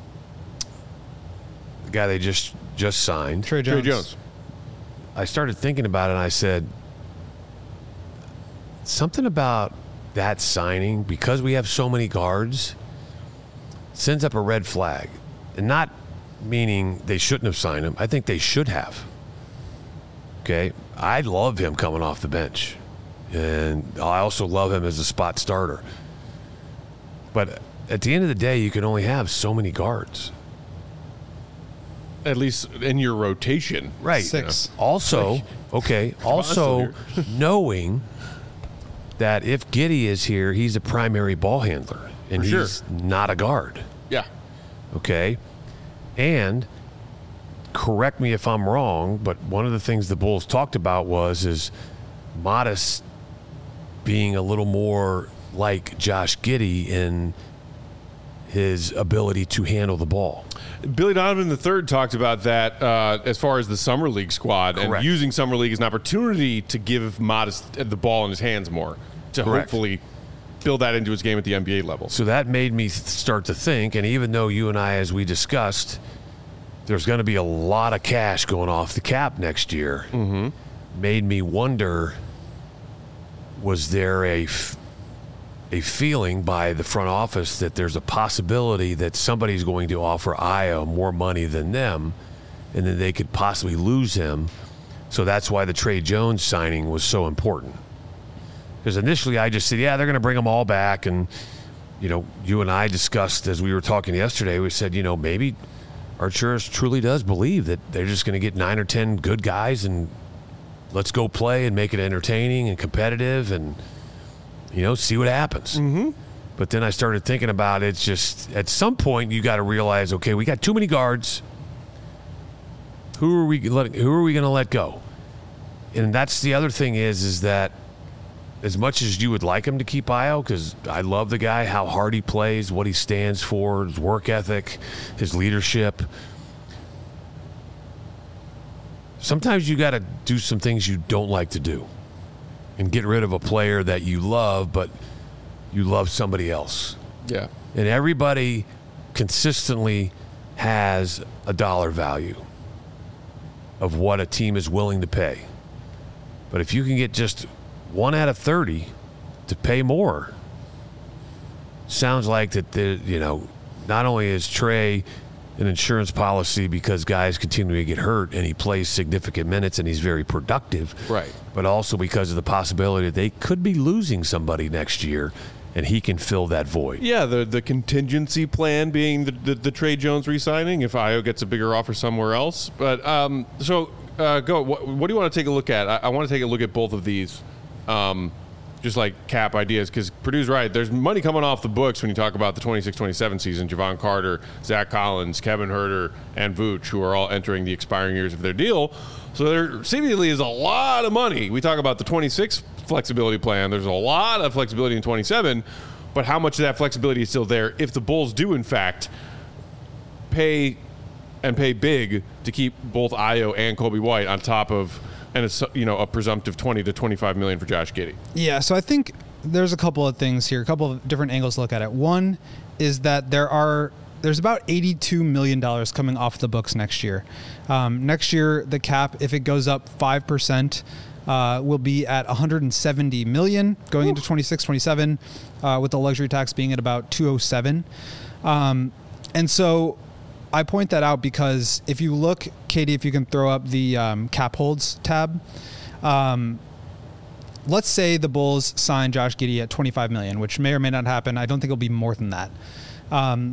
the guy they just just signed, Trey Jones. Trey Jones. I started thinking about it, and I said, something about that signing, because we have so many guards, sends up a red flag. And not meaning they shouldn't have signed him. I think they should have. Okay? I love him coming off the bench. And I also love him as a spot starter. But at the end of the day, you can only have so many guards. At least in your rotation. Right. Six. Also, okay, also knowing that if Giddey is here, he's a primary ball handler. And For sure. he's not a guard. Yeah. Okay? And correct me if I'm wrong, but one of the things the Bulls talked about was is Modest being a little more like Josh Giddey in his ability to handle the ball. Billy Donovan the third talked about that uh, as far as the Summer League squad Correct. and using Summer League as an opportunity to give Modest the ball in his hands more, to Correct. hopefully build that into his game at the N B A level. So that made me th- start to think, and even though you and I, as we discussed, there's going to be a lot of cash going off the cap next year, Mm-hmm. made me wonder, was there a, f- a feeling by the front office that there's a possibility that somebody's going to offer Ayo more money than them, and then they could possibly lose him. So that's why the Trey Jones signing was so important. Because initially I just said, yeah, they're going to bring them all back. And, you know, you and I discussed as we were talking yesterday, we said, you know, maybe Arturas truly does believe that they're just going to get nine or ten good guys and let's go play and make it entertaining and competitive and, you know, see what happens. Mm-hmm. But then I started thinking about it. It's just at some point you got to realize, okay, we got too many guards. Who are we letting, who are we going to let go? And that's the other thing is, is that as much as you would like him to keep Ayo, because I love the guy, how hard he plays, what he stands for, his work ethic, his leadership. Sometimes you got to do some things you don't like to do and get rid of a player that you love, but you love somebody else. Yeah. And everybody consistently has a dollar value of what a team is willing to pay. But if you can get just one out of thirty to pay more, sounds like that, the, you know, not only is Trey an insurance policy because guys continue to get hurt and he plays significant minutes and he's very productive, Right. but also because of the possibility that they could be losing somebody next year and he can fill that void. Yeah, the the contingency plan being the, the, the Trey Jones re-signing if Ayo gets a bigger offer somewhere else. But um, so, uh, go. What, what do you want to take a look at? I, I want to take a look at both of these. Um, just like cap ideas, because Purdue's right. There's money coming off the books when you talk about the twenty-six twenty-seven season. Javon Carter, Zach Collins, Kevin Huerter, and Vooch, who are all entering the expiring years of their deal. So there seemingly is a lot of money. We talk about the twenty-six flexibility plan. There's a lot of flexibility in twenty-seven, but how much of that flexibility is still there if the Bulls do, in fact, pay and pay big to keep both Ayo and Kobe White on top of and a, you know, a presumptive twenty to twenty-five million for Josh Giddey? Yeah, so I think there's a couple of things here, a couple of different angles to look at it. One is that there are there's about eighty-two million dollars coming off the books next year. Um, next year, the cap, if it goes up five percent, uh, will be at one hundred seventy million dollars going Ooh. into twenty-six twenty-seven, uh, with the luxury tax being at about two oh seven. Um, and so I point that out because if you look, Katie, if you can throw up the um, cap holds tab, um, let's say the Bulls sign Josh Giddey at twenty-five million dollars, which may or may not happen. I don't think it'll be more than that. Um,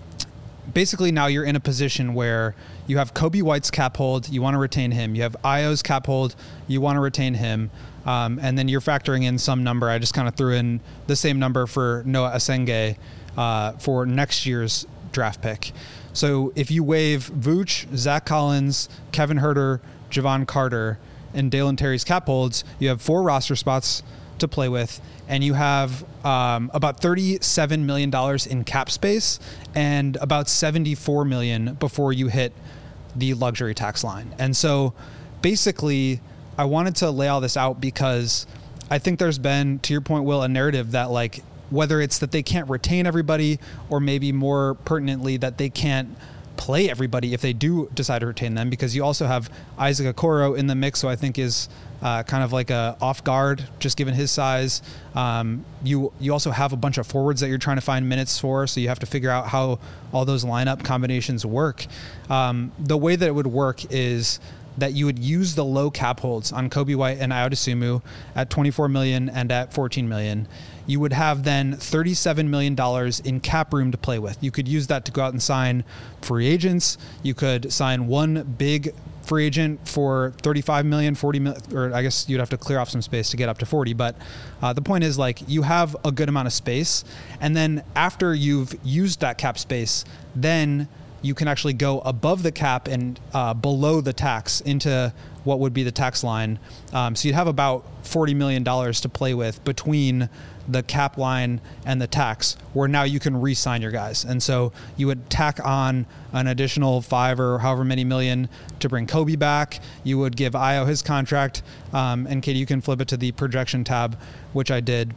basically, now you're in a position where you have Kobe White's cap hold, you want to retain him. You have Ayo's cap hold, you want to retain him. Um, and then you're factoring in some number. I just kind of threw in the same number for Noah Asenge uh, for next year's draft pick. So if you waive Vooch, Zach Collins, Kevin Huerter, Javon Carter, and Dalen Terry's cap holds, you have four roster spots to play with, and you have um, about thirty-seven million dollars in cap space and about seventy-four million dollars before you hit the luxury tax line. And so basically, I wanted to lay all this out because I think there's been, to your point, Will, a narrative that, like, whether it's that they can't retain everybody or maybe more pertinently that they can't play everybody if they do decide to retain them, because you also have Isaac Okoro in the mix, who I think is uh, kind of like a off guard, just given his size. Um, you you also have a bunch of forwards that you're trying to find minutes for, so you have to figure out how all those lineup combinations work. Um, the way that it would work is that you would use the low cap holds on Kobe White and Ayo Dosunmu at twenty-four million dollars and at fourteen million dollars. You would have then thirty-seven million dollars in cap room to play with. You could use that to go out and sign free agents. You could sign one big free agent for thirty-five million dollars, forty million dollars, or I guess you'd have to clear off some space to get up to forty. But uh, the point is, like, you have a good amount of space. And then after you've used that cap space, then you can actually go above the cap and uh, below the tax into what would be the tax line. Um, so you'd have about forty million dollars to play with between the cap line and the tax, where now you can re-sign your guys. And so you would tack on an additional five or however many million to bring Kobe back. You would give Ayo his contract. Um, and Katie, you can flip it to the projection tab, which I did.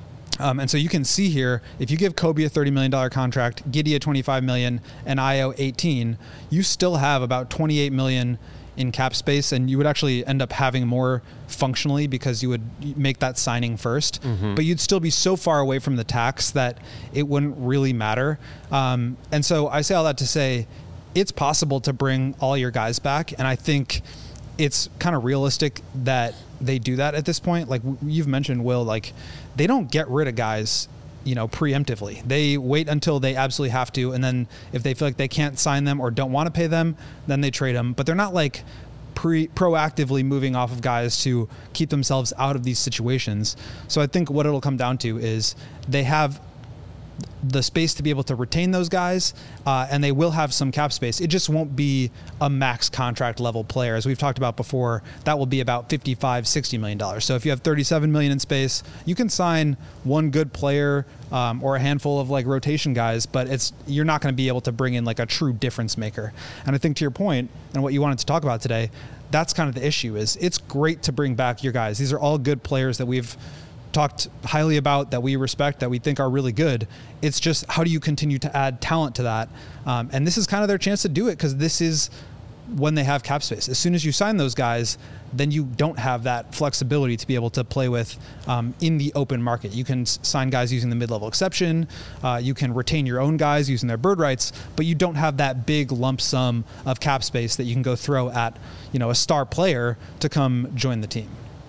Um, and so you can see here, if you give Kobe a thirty million dollars contract, Giddey a twenty-five million dollars, and Ayo eighteen, you still have about twenty-eight million dollars in cap space, and you would actually end up having more functionally because you would make that signing first. Mm-hmm. But you'd still be so far away from the tax that it wouldn't really matter. Um, and so I say all that to say it's possible to bring all your guys back, and I think it's kind of realistic that they do that at this point. Like you've mentioned, Will, like they don't get rid of guys, you know, preemptively. They wait until they absolutely have to, and then if they feel like they can't sign them or don't want to pay them, then they trade them. But they're not like pre proactively moving off of guys to keep themselves out of these situations. So I think what it'll come down to is they have the space to be able to retain those guys, uh, and they will have some cap space. It just won't be a max contract level player. As we've talked about before, that will be about fifty-five, sixty million dollars. So if you have thirty-seven million in space, you can sign one good player um, or a handful of like rotation guys, but it's you're not going to be able to bring in like a true difference maker. And I think to your point and what you wanted to talk about today, that's kind of the issue. Is it's great to bring back your guys. These are all good players that we've talked highly about, that we respect, that we think are really good. It's just, how do you continue to add talent to that? Um, and this is kind of their chance to do it, because this is when they have cap space. As soon as you sign those guys, then you don't have that flexibility to be able to play with um, in the open market. You can s- sign guys using the mid-level exception. Uh, you can retain your own guys using their bird rights, but you don't have that big lump sum of cap space that you can go throw at, you know, a star player to come join the team.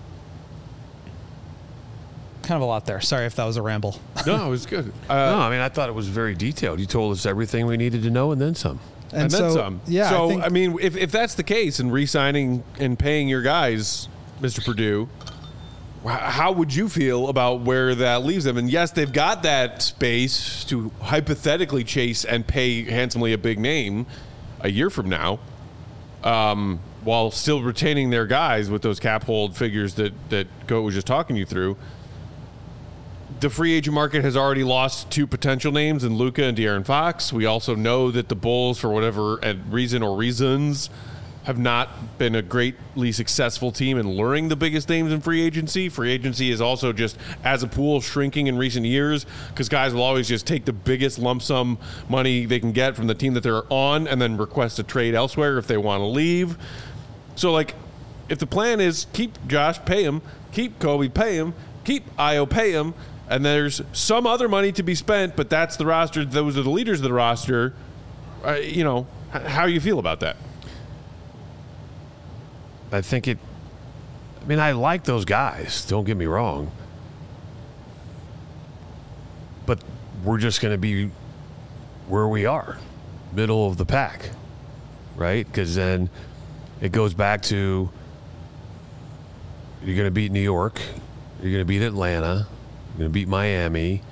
Kind of a lot there. Sorry if that was a ramble. No, it was good. Uh, no, I mean, I thought it was very detailed. You told us everything we needed to know and then some. And, And then so, some. yeah, So, I I, think- mean, if, if that's the case and re-signing and paying your guys, Mister Purdue, how would you feel about where that leaves them? And yes, they've got that space to hypothetically chase and pay handsomely a big name a year from now, um, while still retaining their guys with those cap hold figures that, that Goat was just talking you through. The free agent market has already lost two potential names in Luka and De'Aaron Fox. We also know that the Bulls, for whatever reason or reasons, have not been a greatly successful team in luring the biggest names in free agency. Free agency is also just, as a pool, shrinking in recent years because guys will always just take the biggest lump sum money they can get from the team that they're on and then request a trade elsewhere if they want to leave. So, like, if the plan is keep Josh, pay him, keep Kobe, pay him, keep Io, pay him, and there's some other money to be spent, but that's the roster, those are the leaders of the roster, uh, you know, h- how do you feel about that? I think it, I mean, I like those guys, don't get me wrong. But we're just going to be where we are, middle of the pack, right? Because then it goes back to you're going to beat New York, you're going to beat Atlanta, you're going to beat Miami.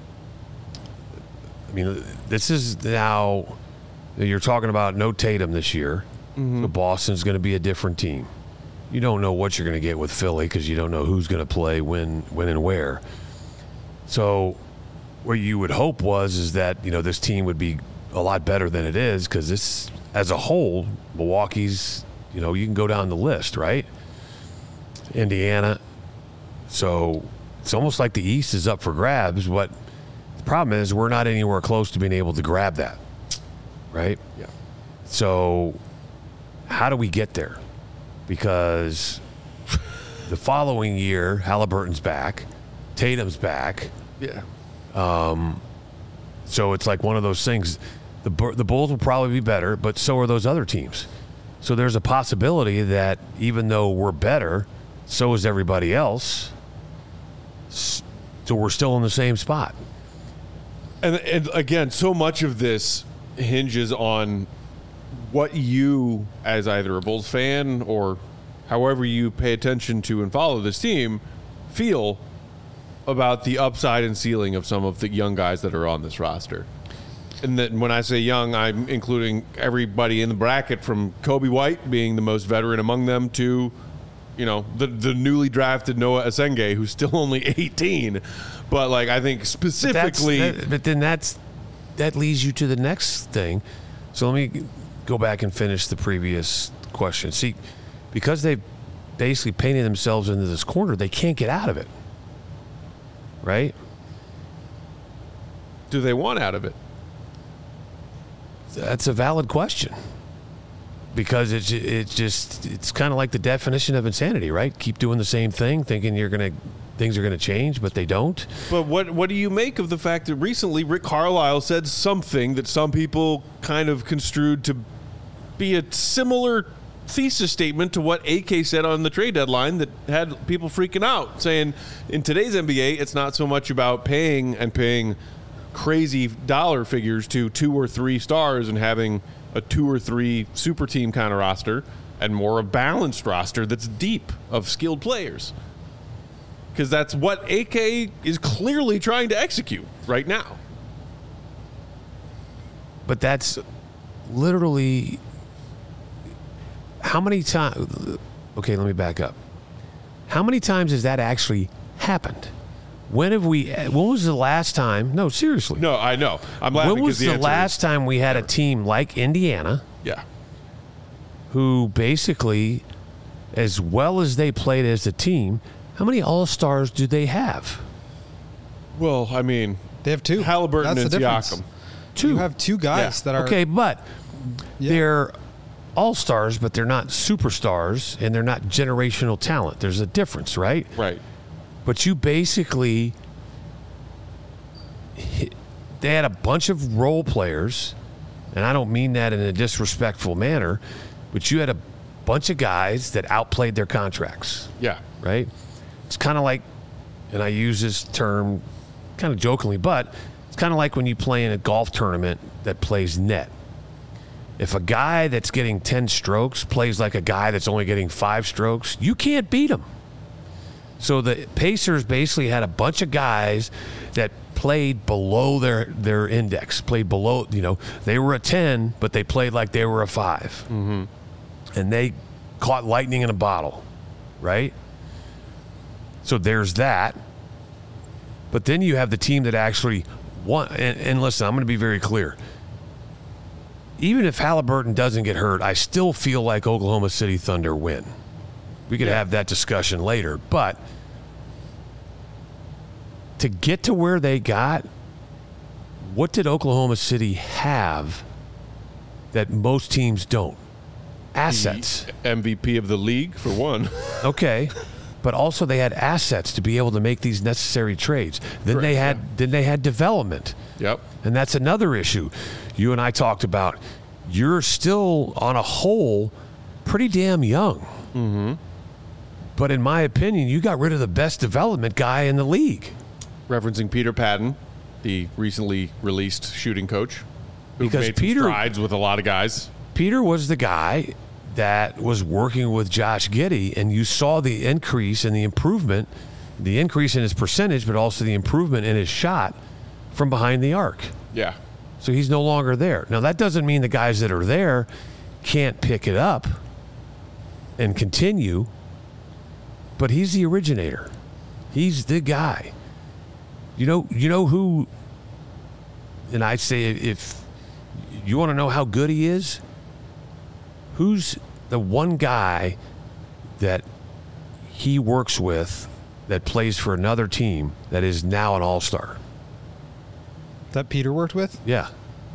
I mean, this is now, you're talking about no Tatum this year. Mm-hmm. So Boston's going to be a different team. You don't know what you're going to get with Philly because you don't know who's going to play when, when and where. So what you would hope was is that, you know, this team would be a lot better than it is because this, as a whole, Milwaukee's, you know, you can go down the list, right? Indiana. So it's almost like the East is up for grabs. What the problem is, we're not anywhere close to being able to grab that, right? Yeah. So how do we get there? Because the following year, Halliburton's back, Tatum's back. Yeah. Um, so it's like one of those things. The the Bulls will probably be better, but so are those other teams. So there's a possibility that even though we're better, so is everybody else. So we're still in the same spot. And, and again, so much of this hinges on what you, as either a Bulls fan or however you pay attention to and follow this team, feel about the upside and ceiling of some of the young guys that are on this roster. And then when I say young, I'm including everybody in the bracket from Kobe White being the most veteran among them to, you know, the the newly drafted Noah Asenge, who's still only eighteen. But, like, I think specifically... But, that, but then that's that leads you to the next thing. So let me go back and finish the previous question. See, because they've basically painted themselves into this corner, they can't get out of it. Right? Do they want out of it? That's a valid question. Because it's it's just it's kind of like the definition of insanity, right? Keep doing the same thing, thinking you're gonna things are gonna change, but they don't. But what what do you make of the fact that recently Rick Carlisle said something that some people kind of construed to be a similar thesis statement to what A K said on the trade deadline that had people freaking out, saying in today's N B A it's not so much about paying and paying crazy dollar figures to two or three stars and having a two or three super team kind of roster and more a balanced roster that's deep of skilled players. Because that's what A K is clearly trying to execute right now. But that's literally how many times? Okay, let me back up. How many times has that actually happened? When have we? When was the last time? No, seriously. No, I know. I'm laughing. When was the, the last time we had a team like Indiana? Yeah. Who basically, as well as they played as a team, how many All-Stars do they have? Well, I mean, They have two. Halliburton That's and the difference. Siakam. Two. You have two guys Yeah. that are Okay, but Yeah. they're All-Stars, but they're not superstars, and they're not generational talent. There's a difference, right? Right. But you basically, they had a bunch of role players, and I don't mean that in a disrespectful manner, but you had a bunch of guys that outplayed their contracts, Yeah. right? It's kind of like, and I use this term kind of jokingly, but it's kind of like when you play in a golf tournament that plays net. If a guy that's getting ten strokes plays like a guy that's only getting five strokes, you can't beat him. So the Pacers basically had a bunch of guys that played below their, their index, played below, you know, they were a ten, but they played like they were a five. Mm-hmm. And they caught lightning in a bottle, right? So there's that. But then you have the team that actually won. And, and listen, I'm going to be very clear. Even if Halliburton doesn't get hurt, I still feel like Oklahoma City Thunder win. We could yeah. have that discussion later. But to get to where they got, what did Oklahoma City have that most teams don't? Assets. The M V P of the league, for one. Okay. But also they had assets to be able to make these necessary trades. Then Correct, they had yeah. then they had development. Yep. And that's another issue. You and I talked about you're still on a whole pretty damn young. Mm-hmm. But in my opinion, you got rid of the best development guy in the league. Referencing Peter Patton, the recently released shooting coach, who Because made Peter- some strides with a lot of guys. Peter was the guy that was working with Josh Giddey, and you saw the increase and the improvement, the increase in his percentage, but also the improvement in his shot from behind the arc. Yeah. So he's no longer there. Now, that doesn't mean the guys that are there can't pick it up and continue, but he's the originator. He's the guy. You know, you know who, and I say if you want to know how good he is, who's the one guy that he works with that plays for another team that is now an all-star? That Peter worked with? Yeah.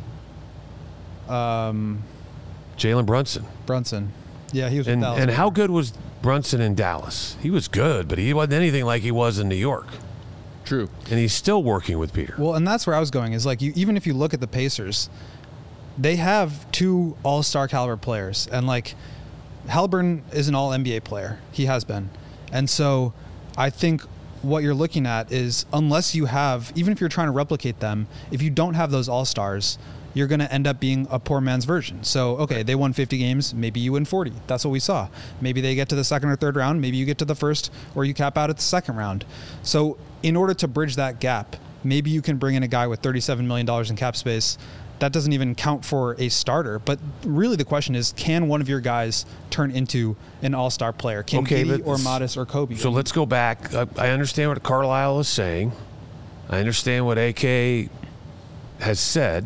Um, Jalen Brunson. Brunson. Yeah, he was with And Dallas. and how good was Brunson in Dallas? He was good, but he wasn't anything like he was in New York. True. And he's still working with Peter. Well, and that's where I was going is like you, even if you look at the Pacers, they have two all-star caliber players, and like Halliburton is an all N B A player. He has been. And so I think what you're looking at is unless you have, even if you're trying to replicate them, if you don't have those all-stars, you're going to end up being a poor man's version. So, okay, they won fifty games. Maybe you win forty. That's what we saw. Maybe they get to the second or third round. Maybe you get to the first, or you cap out at the second round. So in order to bridge that gap, maybe you can bring in a guy with thirty-seven million dollars in cap space. That doesn't even count for a starter. But really the question is, can one of your guys turn into an all-star player? Can Okay, Giddey but- or Modest or Kobe? So let's go back. I, I understand what Carlisle is saying. I understand what A K has said.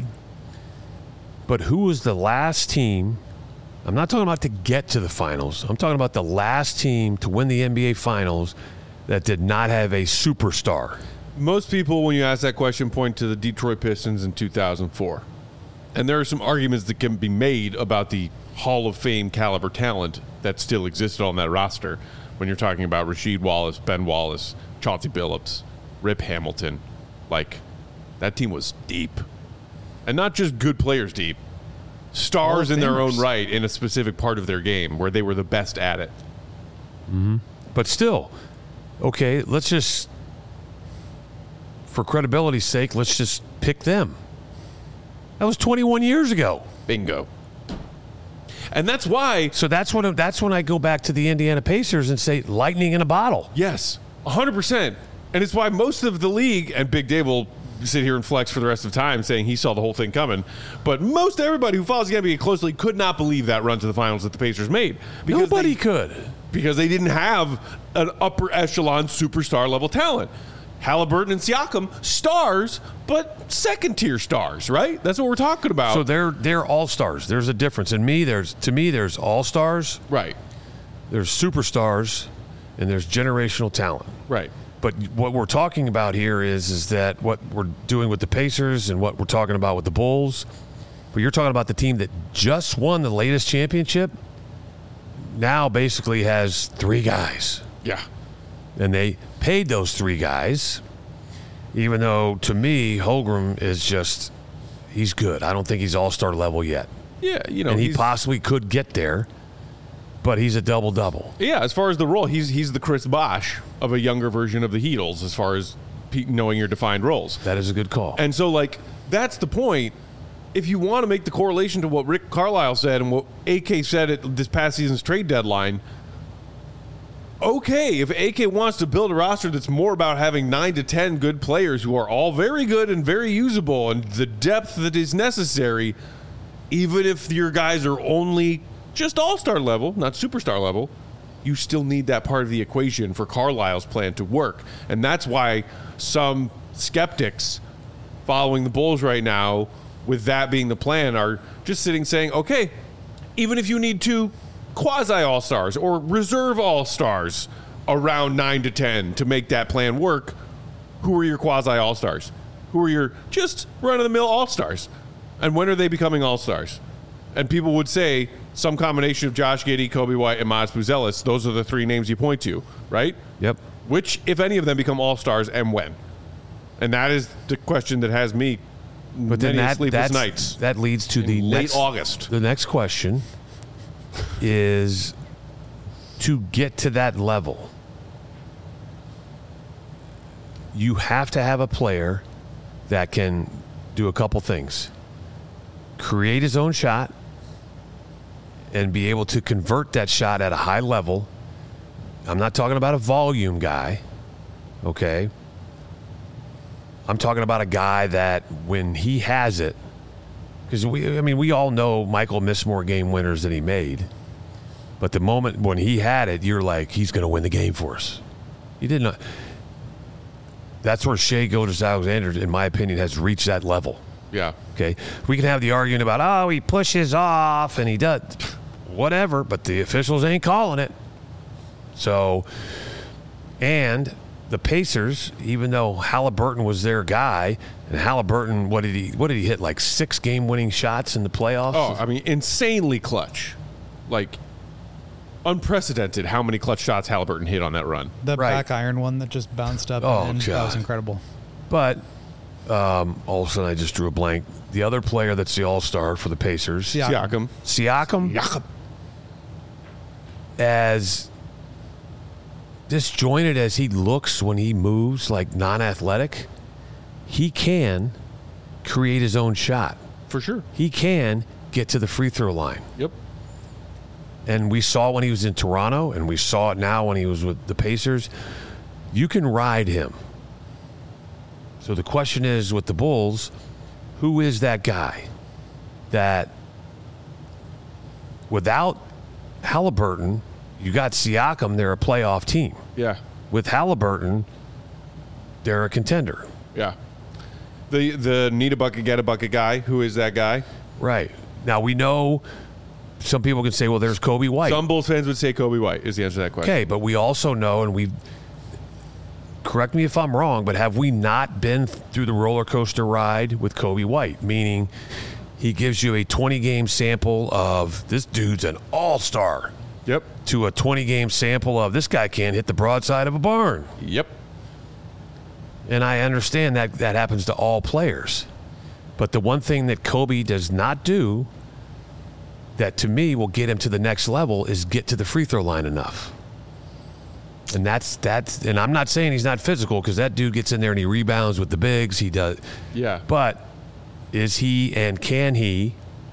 But who was the last team? I'm not talking about to get to the finals. I'm talking about the last team to win the N B A finals that did not have a superstar. Most people, when you ask that question, point to the Detroit Pistons in two thousand four. And there are some arguments that can be made about the Hall of Fame caliber talent that still existed on that roster when you're talking about Rasheed Wallace, Ben Wallace, Chauncey Billups, Rip Hamilton. Like, that team was deep. And not just good players deep. Stars in their own right in a specific part of their game where they were the best at it. Mm-hmm. But still, okay, let's just, for credibility's sake, let's just pick them. That was twenty-one years ago. Bingo. And that's why. So that's when that's when I go back to the Indiana Pacers and say lightning in a bottle. Yes, one hundred percent. And it's why most of the league, and Big Dave will sit here and flex for the rest of the time saying he saw the whole thing coming, but most everybody who follows the N B A closely could not believe that run to the finals that the Pacers made. Nobody they, could. Because they didn't have an upper echelon superstar level talent. Halliburton and Siakam, stars, but second tier stars, right? That's what we're talking about. So they're they're all stars. There's a difference. In me, there's to me there's all stars, right. There's superstars, and there's generational talent. Right. But what we're talking about here is is that what we're doing with the Pacers and what we're talking about with the Bulls. But you're talking about the team that just won the latest championship. Now basically has three guys. Yeah. And they paid those three guys, even though to me Holmgren is just he's good. I don't think he's all-star level yet. Yeah, you know, and he he's- possibly could get there, but he's a double-double. Yeah, as far as the role, he's he's the Chris Bosh of a younger version of the Heatles as far as pe- knowing your defined roles. That is a good call. And so, like, that's the point. If you want to make the correlation to what Rick Carlisle said and what A K said at this past season's trade deadline, okay, if A K wants to build a roster that's more about having nine to ten good players who are all very good and very usable and the depth that is necessary, even if your guys are only just all-star level, not superstar level, you still need that part of the equation for Carlisle's plan to work. And that's why some skeptics following the Bulls right now, with that being the plan, are just sitting saying, okay, even if you need two quasi-all-stars or reserve all-stars around nine to ten to make that plan work, who are your quasi-all-stars? Who are your just run-of-the-mill all-stars? And when are they becoming all-stars? And people would say some combination of Josh Giddey, Kobe White, and Maz Buzelis. Those are the three names you point to, right? Yep. Which, if any of them, become all-stars and when? And that is the question that has me But then many that, sleepless that's, nights. that leads to in the late next, August. The next question is, to get to that level, you have to have a player that can do a couple things. Create his own shot and be able to convert that shot at a high level. I'm not talking about a volume guy, okay? I'm talking about a guy that when he has it, because we, I mean, we all know Michael missed more game winners than he made. But the moment when he had it, you're like, he's going to win the game for us. He did not. That's where Shai Gilgeous-Alexander, in my opinion, has reached that level. Yeah. Okay. We can have the argument about, oh, he pushes off and he does whatever, but the officials ain't calling it. So, and the Pacers, even though Halliburton was their guy, and Halliburton, what did he what did he hit, like six game-winning shots in the playoffs? Oh, I mean, insanely clutch. Like, unprecedented how many clutch shots Halliburton hit on that run. The Right. back iron one that just bounced up. Oh, and in, that was God. incredible. But um, all of a sudden I just drew a blank. The other player that's the all-star for the Pacers, Siakam. Siakam. Siakam, Siakam. as disjointed as he looks when he moves, like non-athletic, he can create his own shot. For sure. He can get to the free throw line. Yep. And we saw when he was in Toronto, and we saw it now when he was with the Pacers. You can ride him. So the question is, with the Bulls, who is that guy that without Halliburton, you got Siakam, they're a playoff team. Yeah. With Halliburton, they're a contender. Yeah. The the need a bucket, get a bucket guy. Who is that guy? Right. Now, we know some people can say, well, there's Kobe White. Some Bulls fans would say Kobe White is the answer to that question. Okay, but we also know, and we've, correct me if I'm wrong, but have we not been through the roller coaster ride with Kobe White? Meaning he gives you a twenty-game sample of this dude's an all-star Yep. to a twenty-game sample of this guy can't hit the broadside of a barn. Yep. And I understand that that happens to all players. But the one thing that Kobe does not do that to me will get him to the next level is get to the free throw line enough. And that's that's and I'm not saying he's not physical, because that dude gets in there and he rebounds with the bigs. He does. Yeah. But is he and can he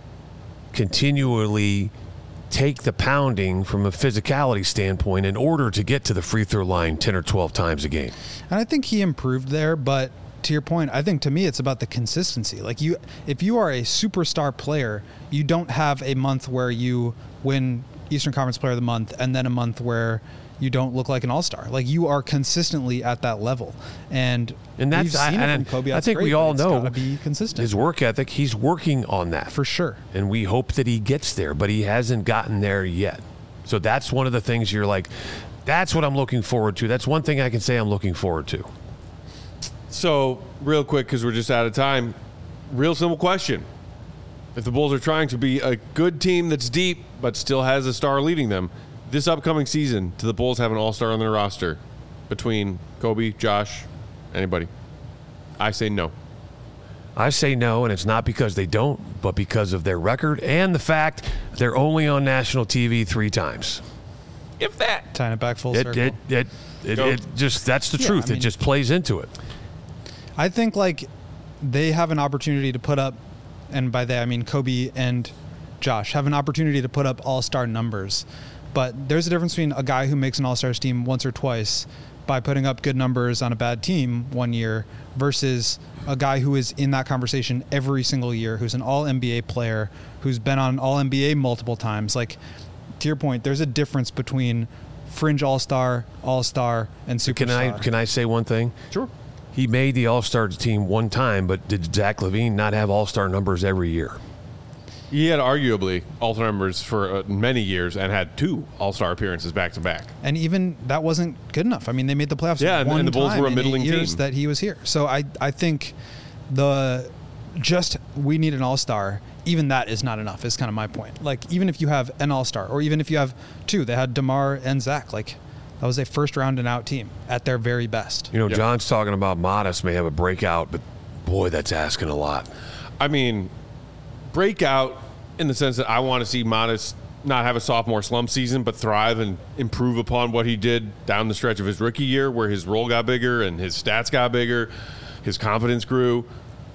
continually take the pounding from a physicality standpoint in order to get to the free throw line ten or twelve times a game? And I think he improved there, but to your point, I think to me it's about the consistency. Like you, if you are a superstar player, you don't have a month where you win Eastern Conference Player of the Month and then a month where you don't look like an all-star. Like you are consistently at that level, and And that's we've seen I, it and from Kobe. I That's think great, we but all it's know gotta be consistent. his work ethic. He's working on that For sure. and we hope that he gets there, but he hasn't gotten there yet. So that's one of the things you're like, that's what I'm looking forward to. That's one thing I can say I'm looking forward to. So, real quick, because we're just out of time, real simple question. If the Bulls are trying to be a good team that's deep but still has a star leading them, this upcoming season, do the Bulls have an all-star on their roster between Kobe, Josh, anybody? I say no. I say no, and it's not because they don't, but because of their record and the fact they're only on national T V three times. If that. Tying it back full It circle. it it, it, Go. it just that's the Yeah, truth. I mean- it just plays into it. I think like they have an opportunity to put up, and by that I mean Kobe and Josh have an opportunity to put up all-star numbers, But there's a difference between a guy who makes an All-Stars team once or twice by putting up good numbers on a bad team one year versus a guy who is in that conversation every single year, who's an all N B A player, who's been on all N B A multiple times. Like, to your point, there's a difference between fringe All-Star, All-Star, and superstar. Can I can I say one thing? Sure. He made the All-Star team one time, but did Zach LaVine not have All-Star numbers every year? He had arguably All-Star numbers for uh, many years and had two All-Star appearances back to back. And even that wasn't good enough. I mean, they made the playoffs Yeah, and- one and the Bulls time were a in middling eight years team. that he was here. So I, I think the just we need an All-Star, even that is not enough, is kind of my point. Like, even if you have an All-Star, or even if you have two, they had DeMar and Zach, like, that was a first-round and out team at their very best. You know, Yeah. John's talking about Modest may have a breakout, but boy, that's asking a lot. I mean, breakout in the sense that I want to see Modest not have a sophomore slump season, but thrive and improve upon what he did down the stretch of his rookie year, where his role got bigger and his stats got bigger, his confidence grew.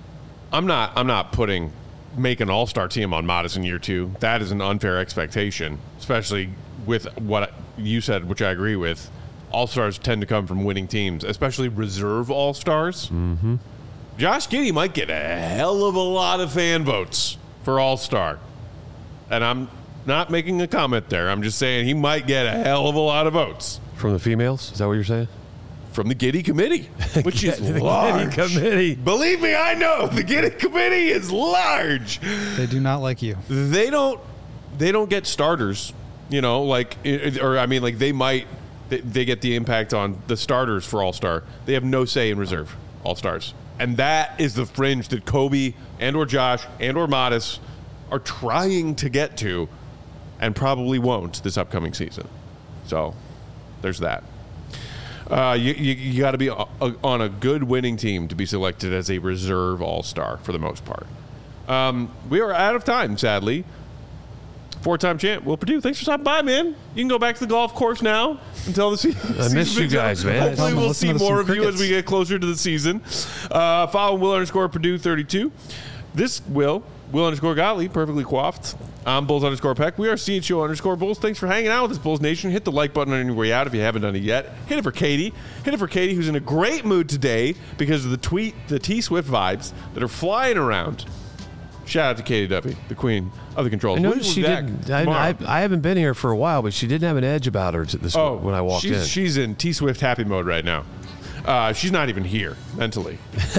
I'm not. I'm not putting make an all-star team on Modest in year two. That is an unfair expectation, especially with what you said, which I agree with. All-stars tend to come from winning teams, especially reserve all-stars. Mm-hmm. Josh Giddey might get a hell of a lot of fan votes for all-star. And I'm not making a comment there. I'm just saying he might get a hell of a lot of votes From the females? Is that what you're saying? from the Giddey Committee, which is The Giddey large. Committee. Believe me, I know. The Giddey Committee is large. They do not like you. They don't they don't get starters, you know, like it- or I mean like they might they, they get the impact on the starters for All-Star. They have no say in reserve All-Stars. And that is the fringe that Kobe and or Josh and or Modest are trying to get to and probably won't this upcoming season. So there's that. Uh, you you, you got to be a, a, on a good winning team to be selected as a reserve all-star for the most part. Um, we are out of time, sadly. Four-time champ Will Perdue, thanks for stopping by, man. You can go back to the golf course now until the season. I miss you guys, man. Hopefully, we'll Listen see to some more of you as crickets. we get closer to the season. Uh, follow Will underscore Perdue thirty-two. This Will, Will underscore Gottlieb, perfectly coiffed. I'm Bulls underscore Peck. We are C H O underscore Bulls. Thanks for hanging out with us, Bulls Nation. Hit the like button on your way out if you haven't done it yet. Hit it for Katie. Hit it for Katie, who's in a great mood today because of the tweet, the T-Swift vibes that are flying around. Shout out to Katie Duffy, the queen of the controls. I We'll noticed be she back didn't. I, tomorrow. I, I haven't been here for a while, but she didn't have an edge about her to this Oh, when I walked she's, in. She's in T-Swift happy mode right now. Uh, she's not even here mentally.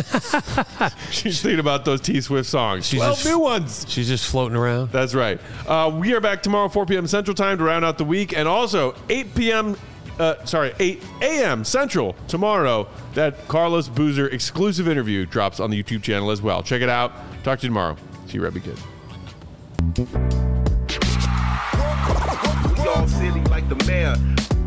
She's thinking about those T-Swift songs. She's twelve just- new ones. She's just floating around. That's right. Uh, we are back tomorrow, four p.m. Central Time to round out the week, and also eight p.m. Uh, sorry, eight a.m. Central tomorrow. That Carlos Boozer exclusive interview drops on the YouTube channel as well. Check it out. Talk to you tomorrow. See you, Rebby Kid. We all silly like the mayor.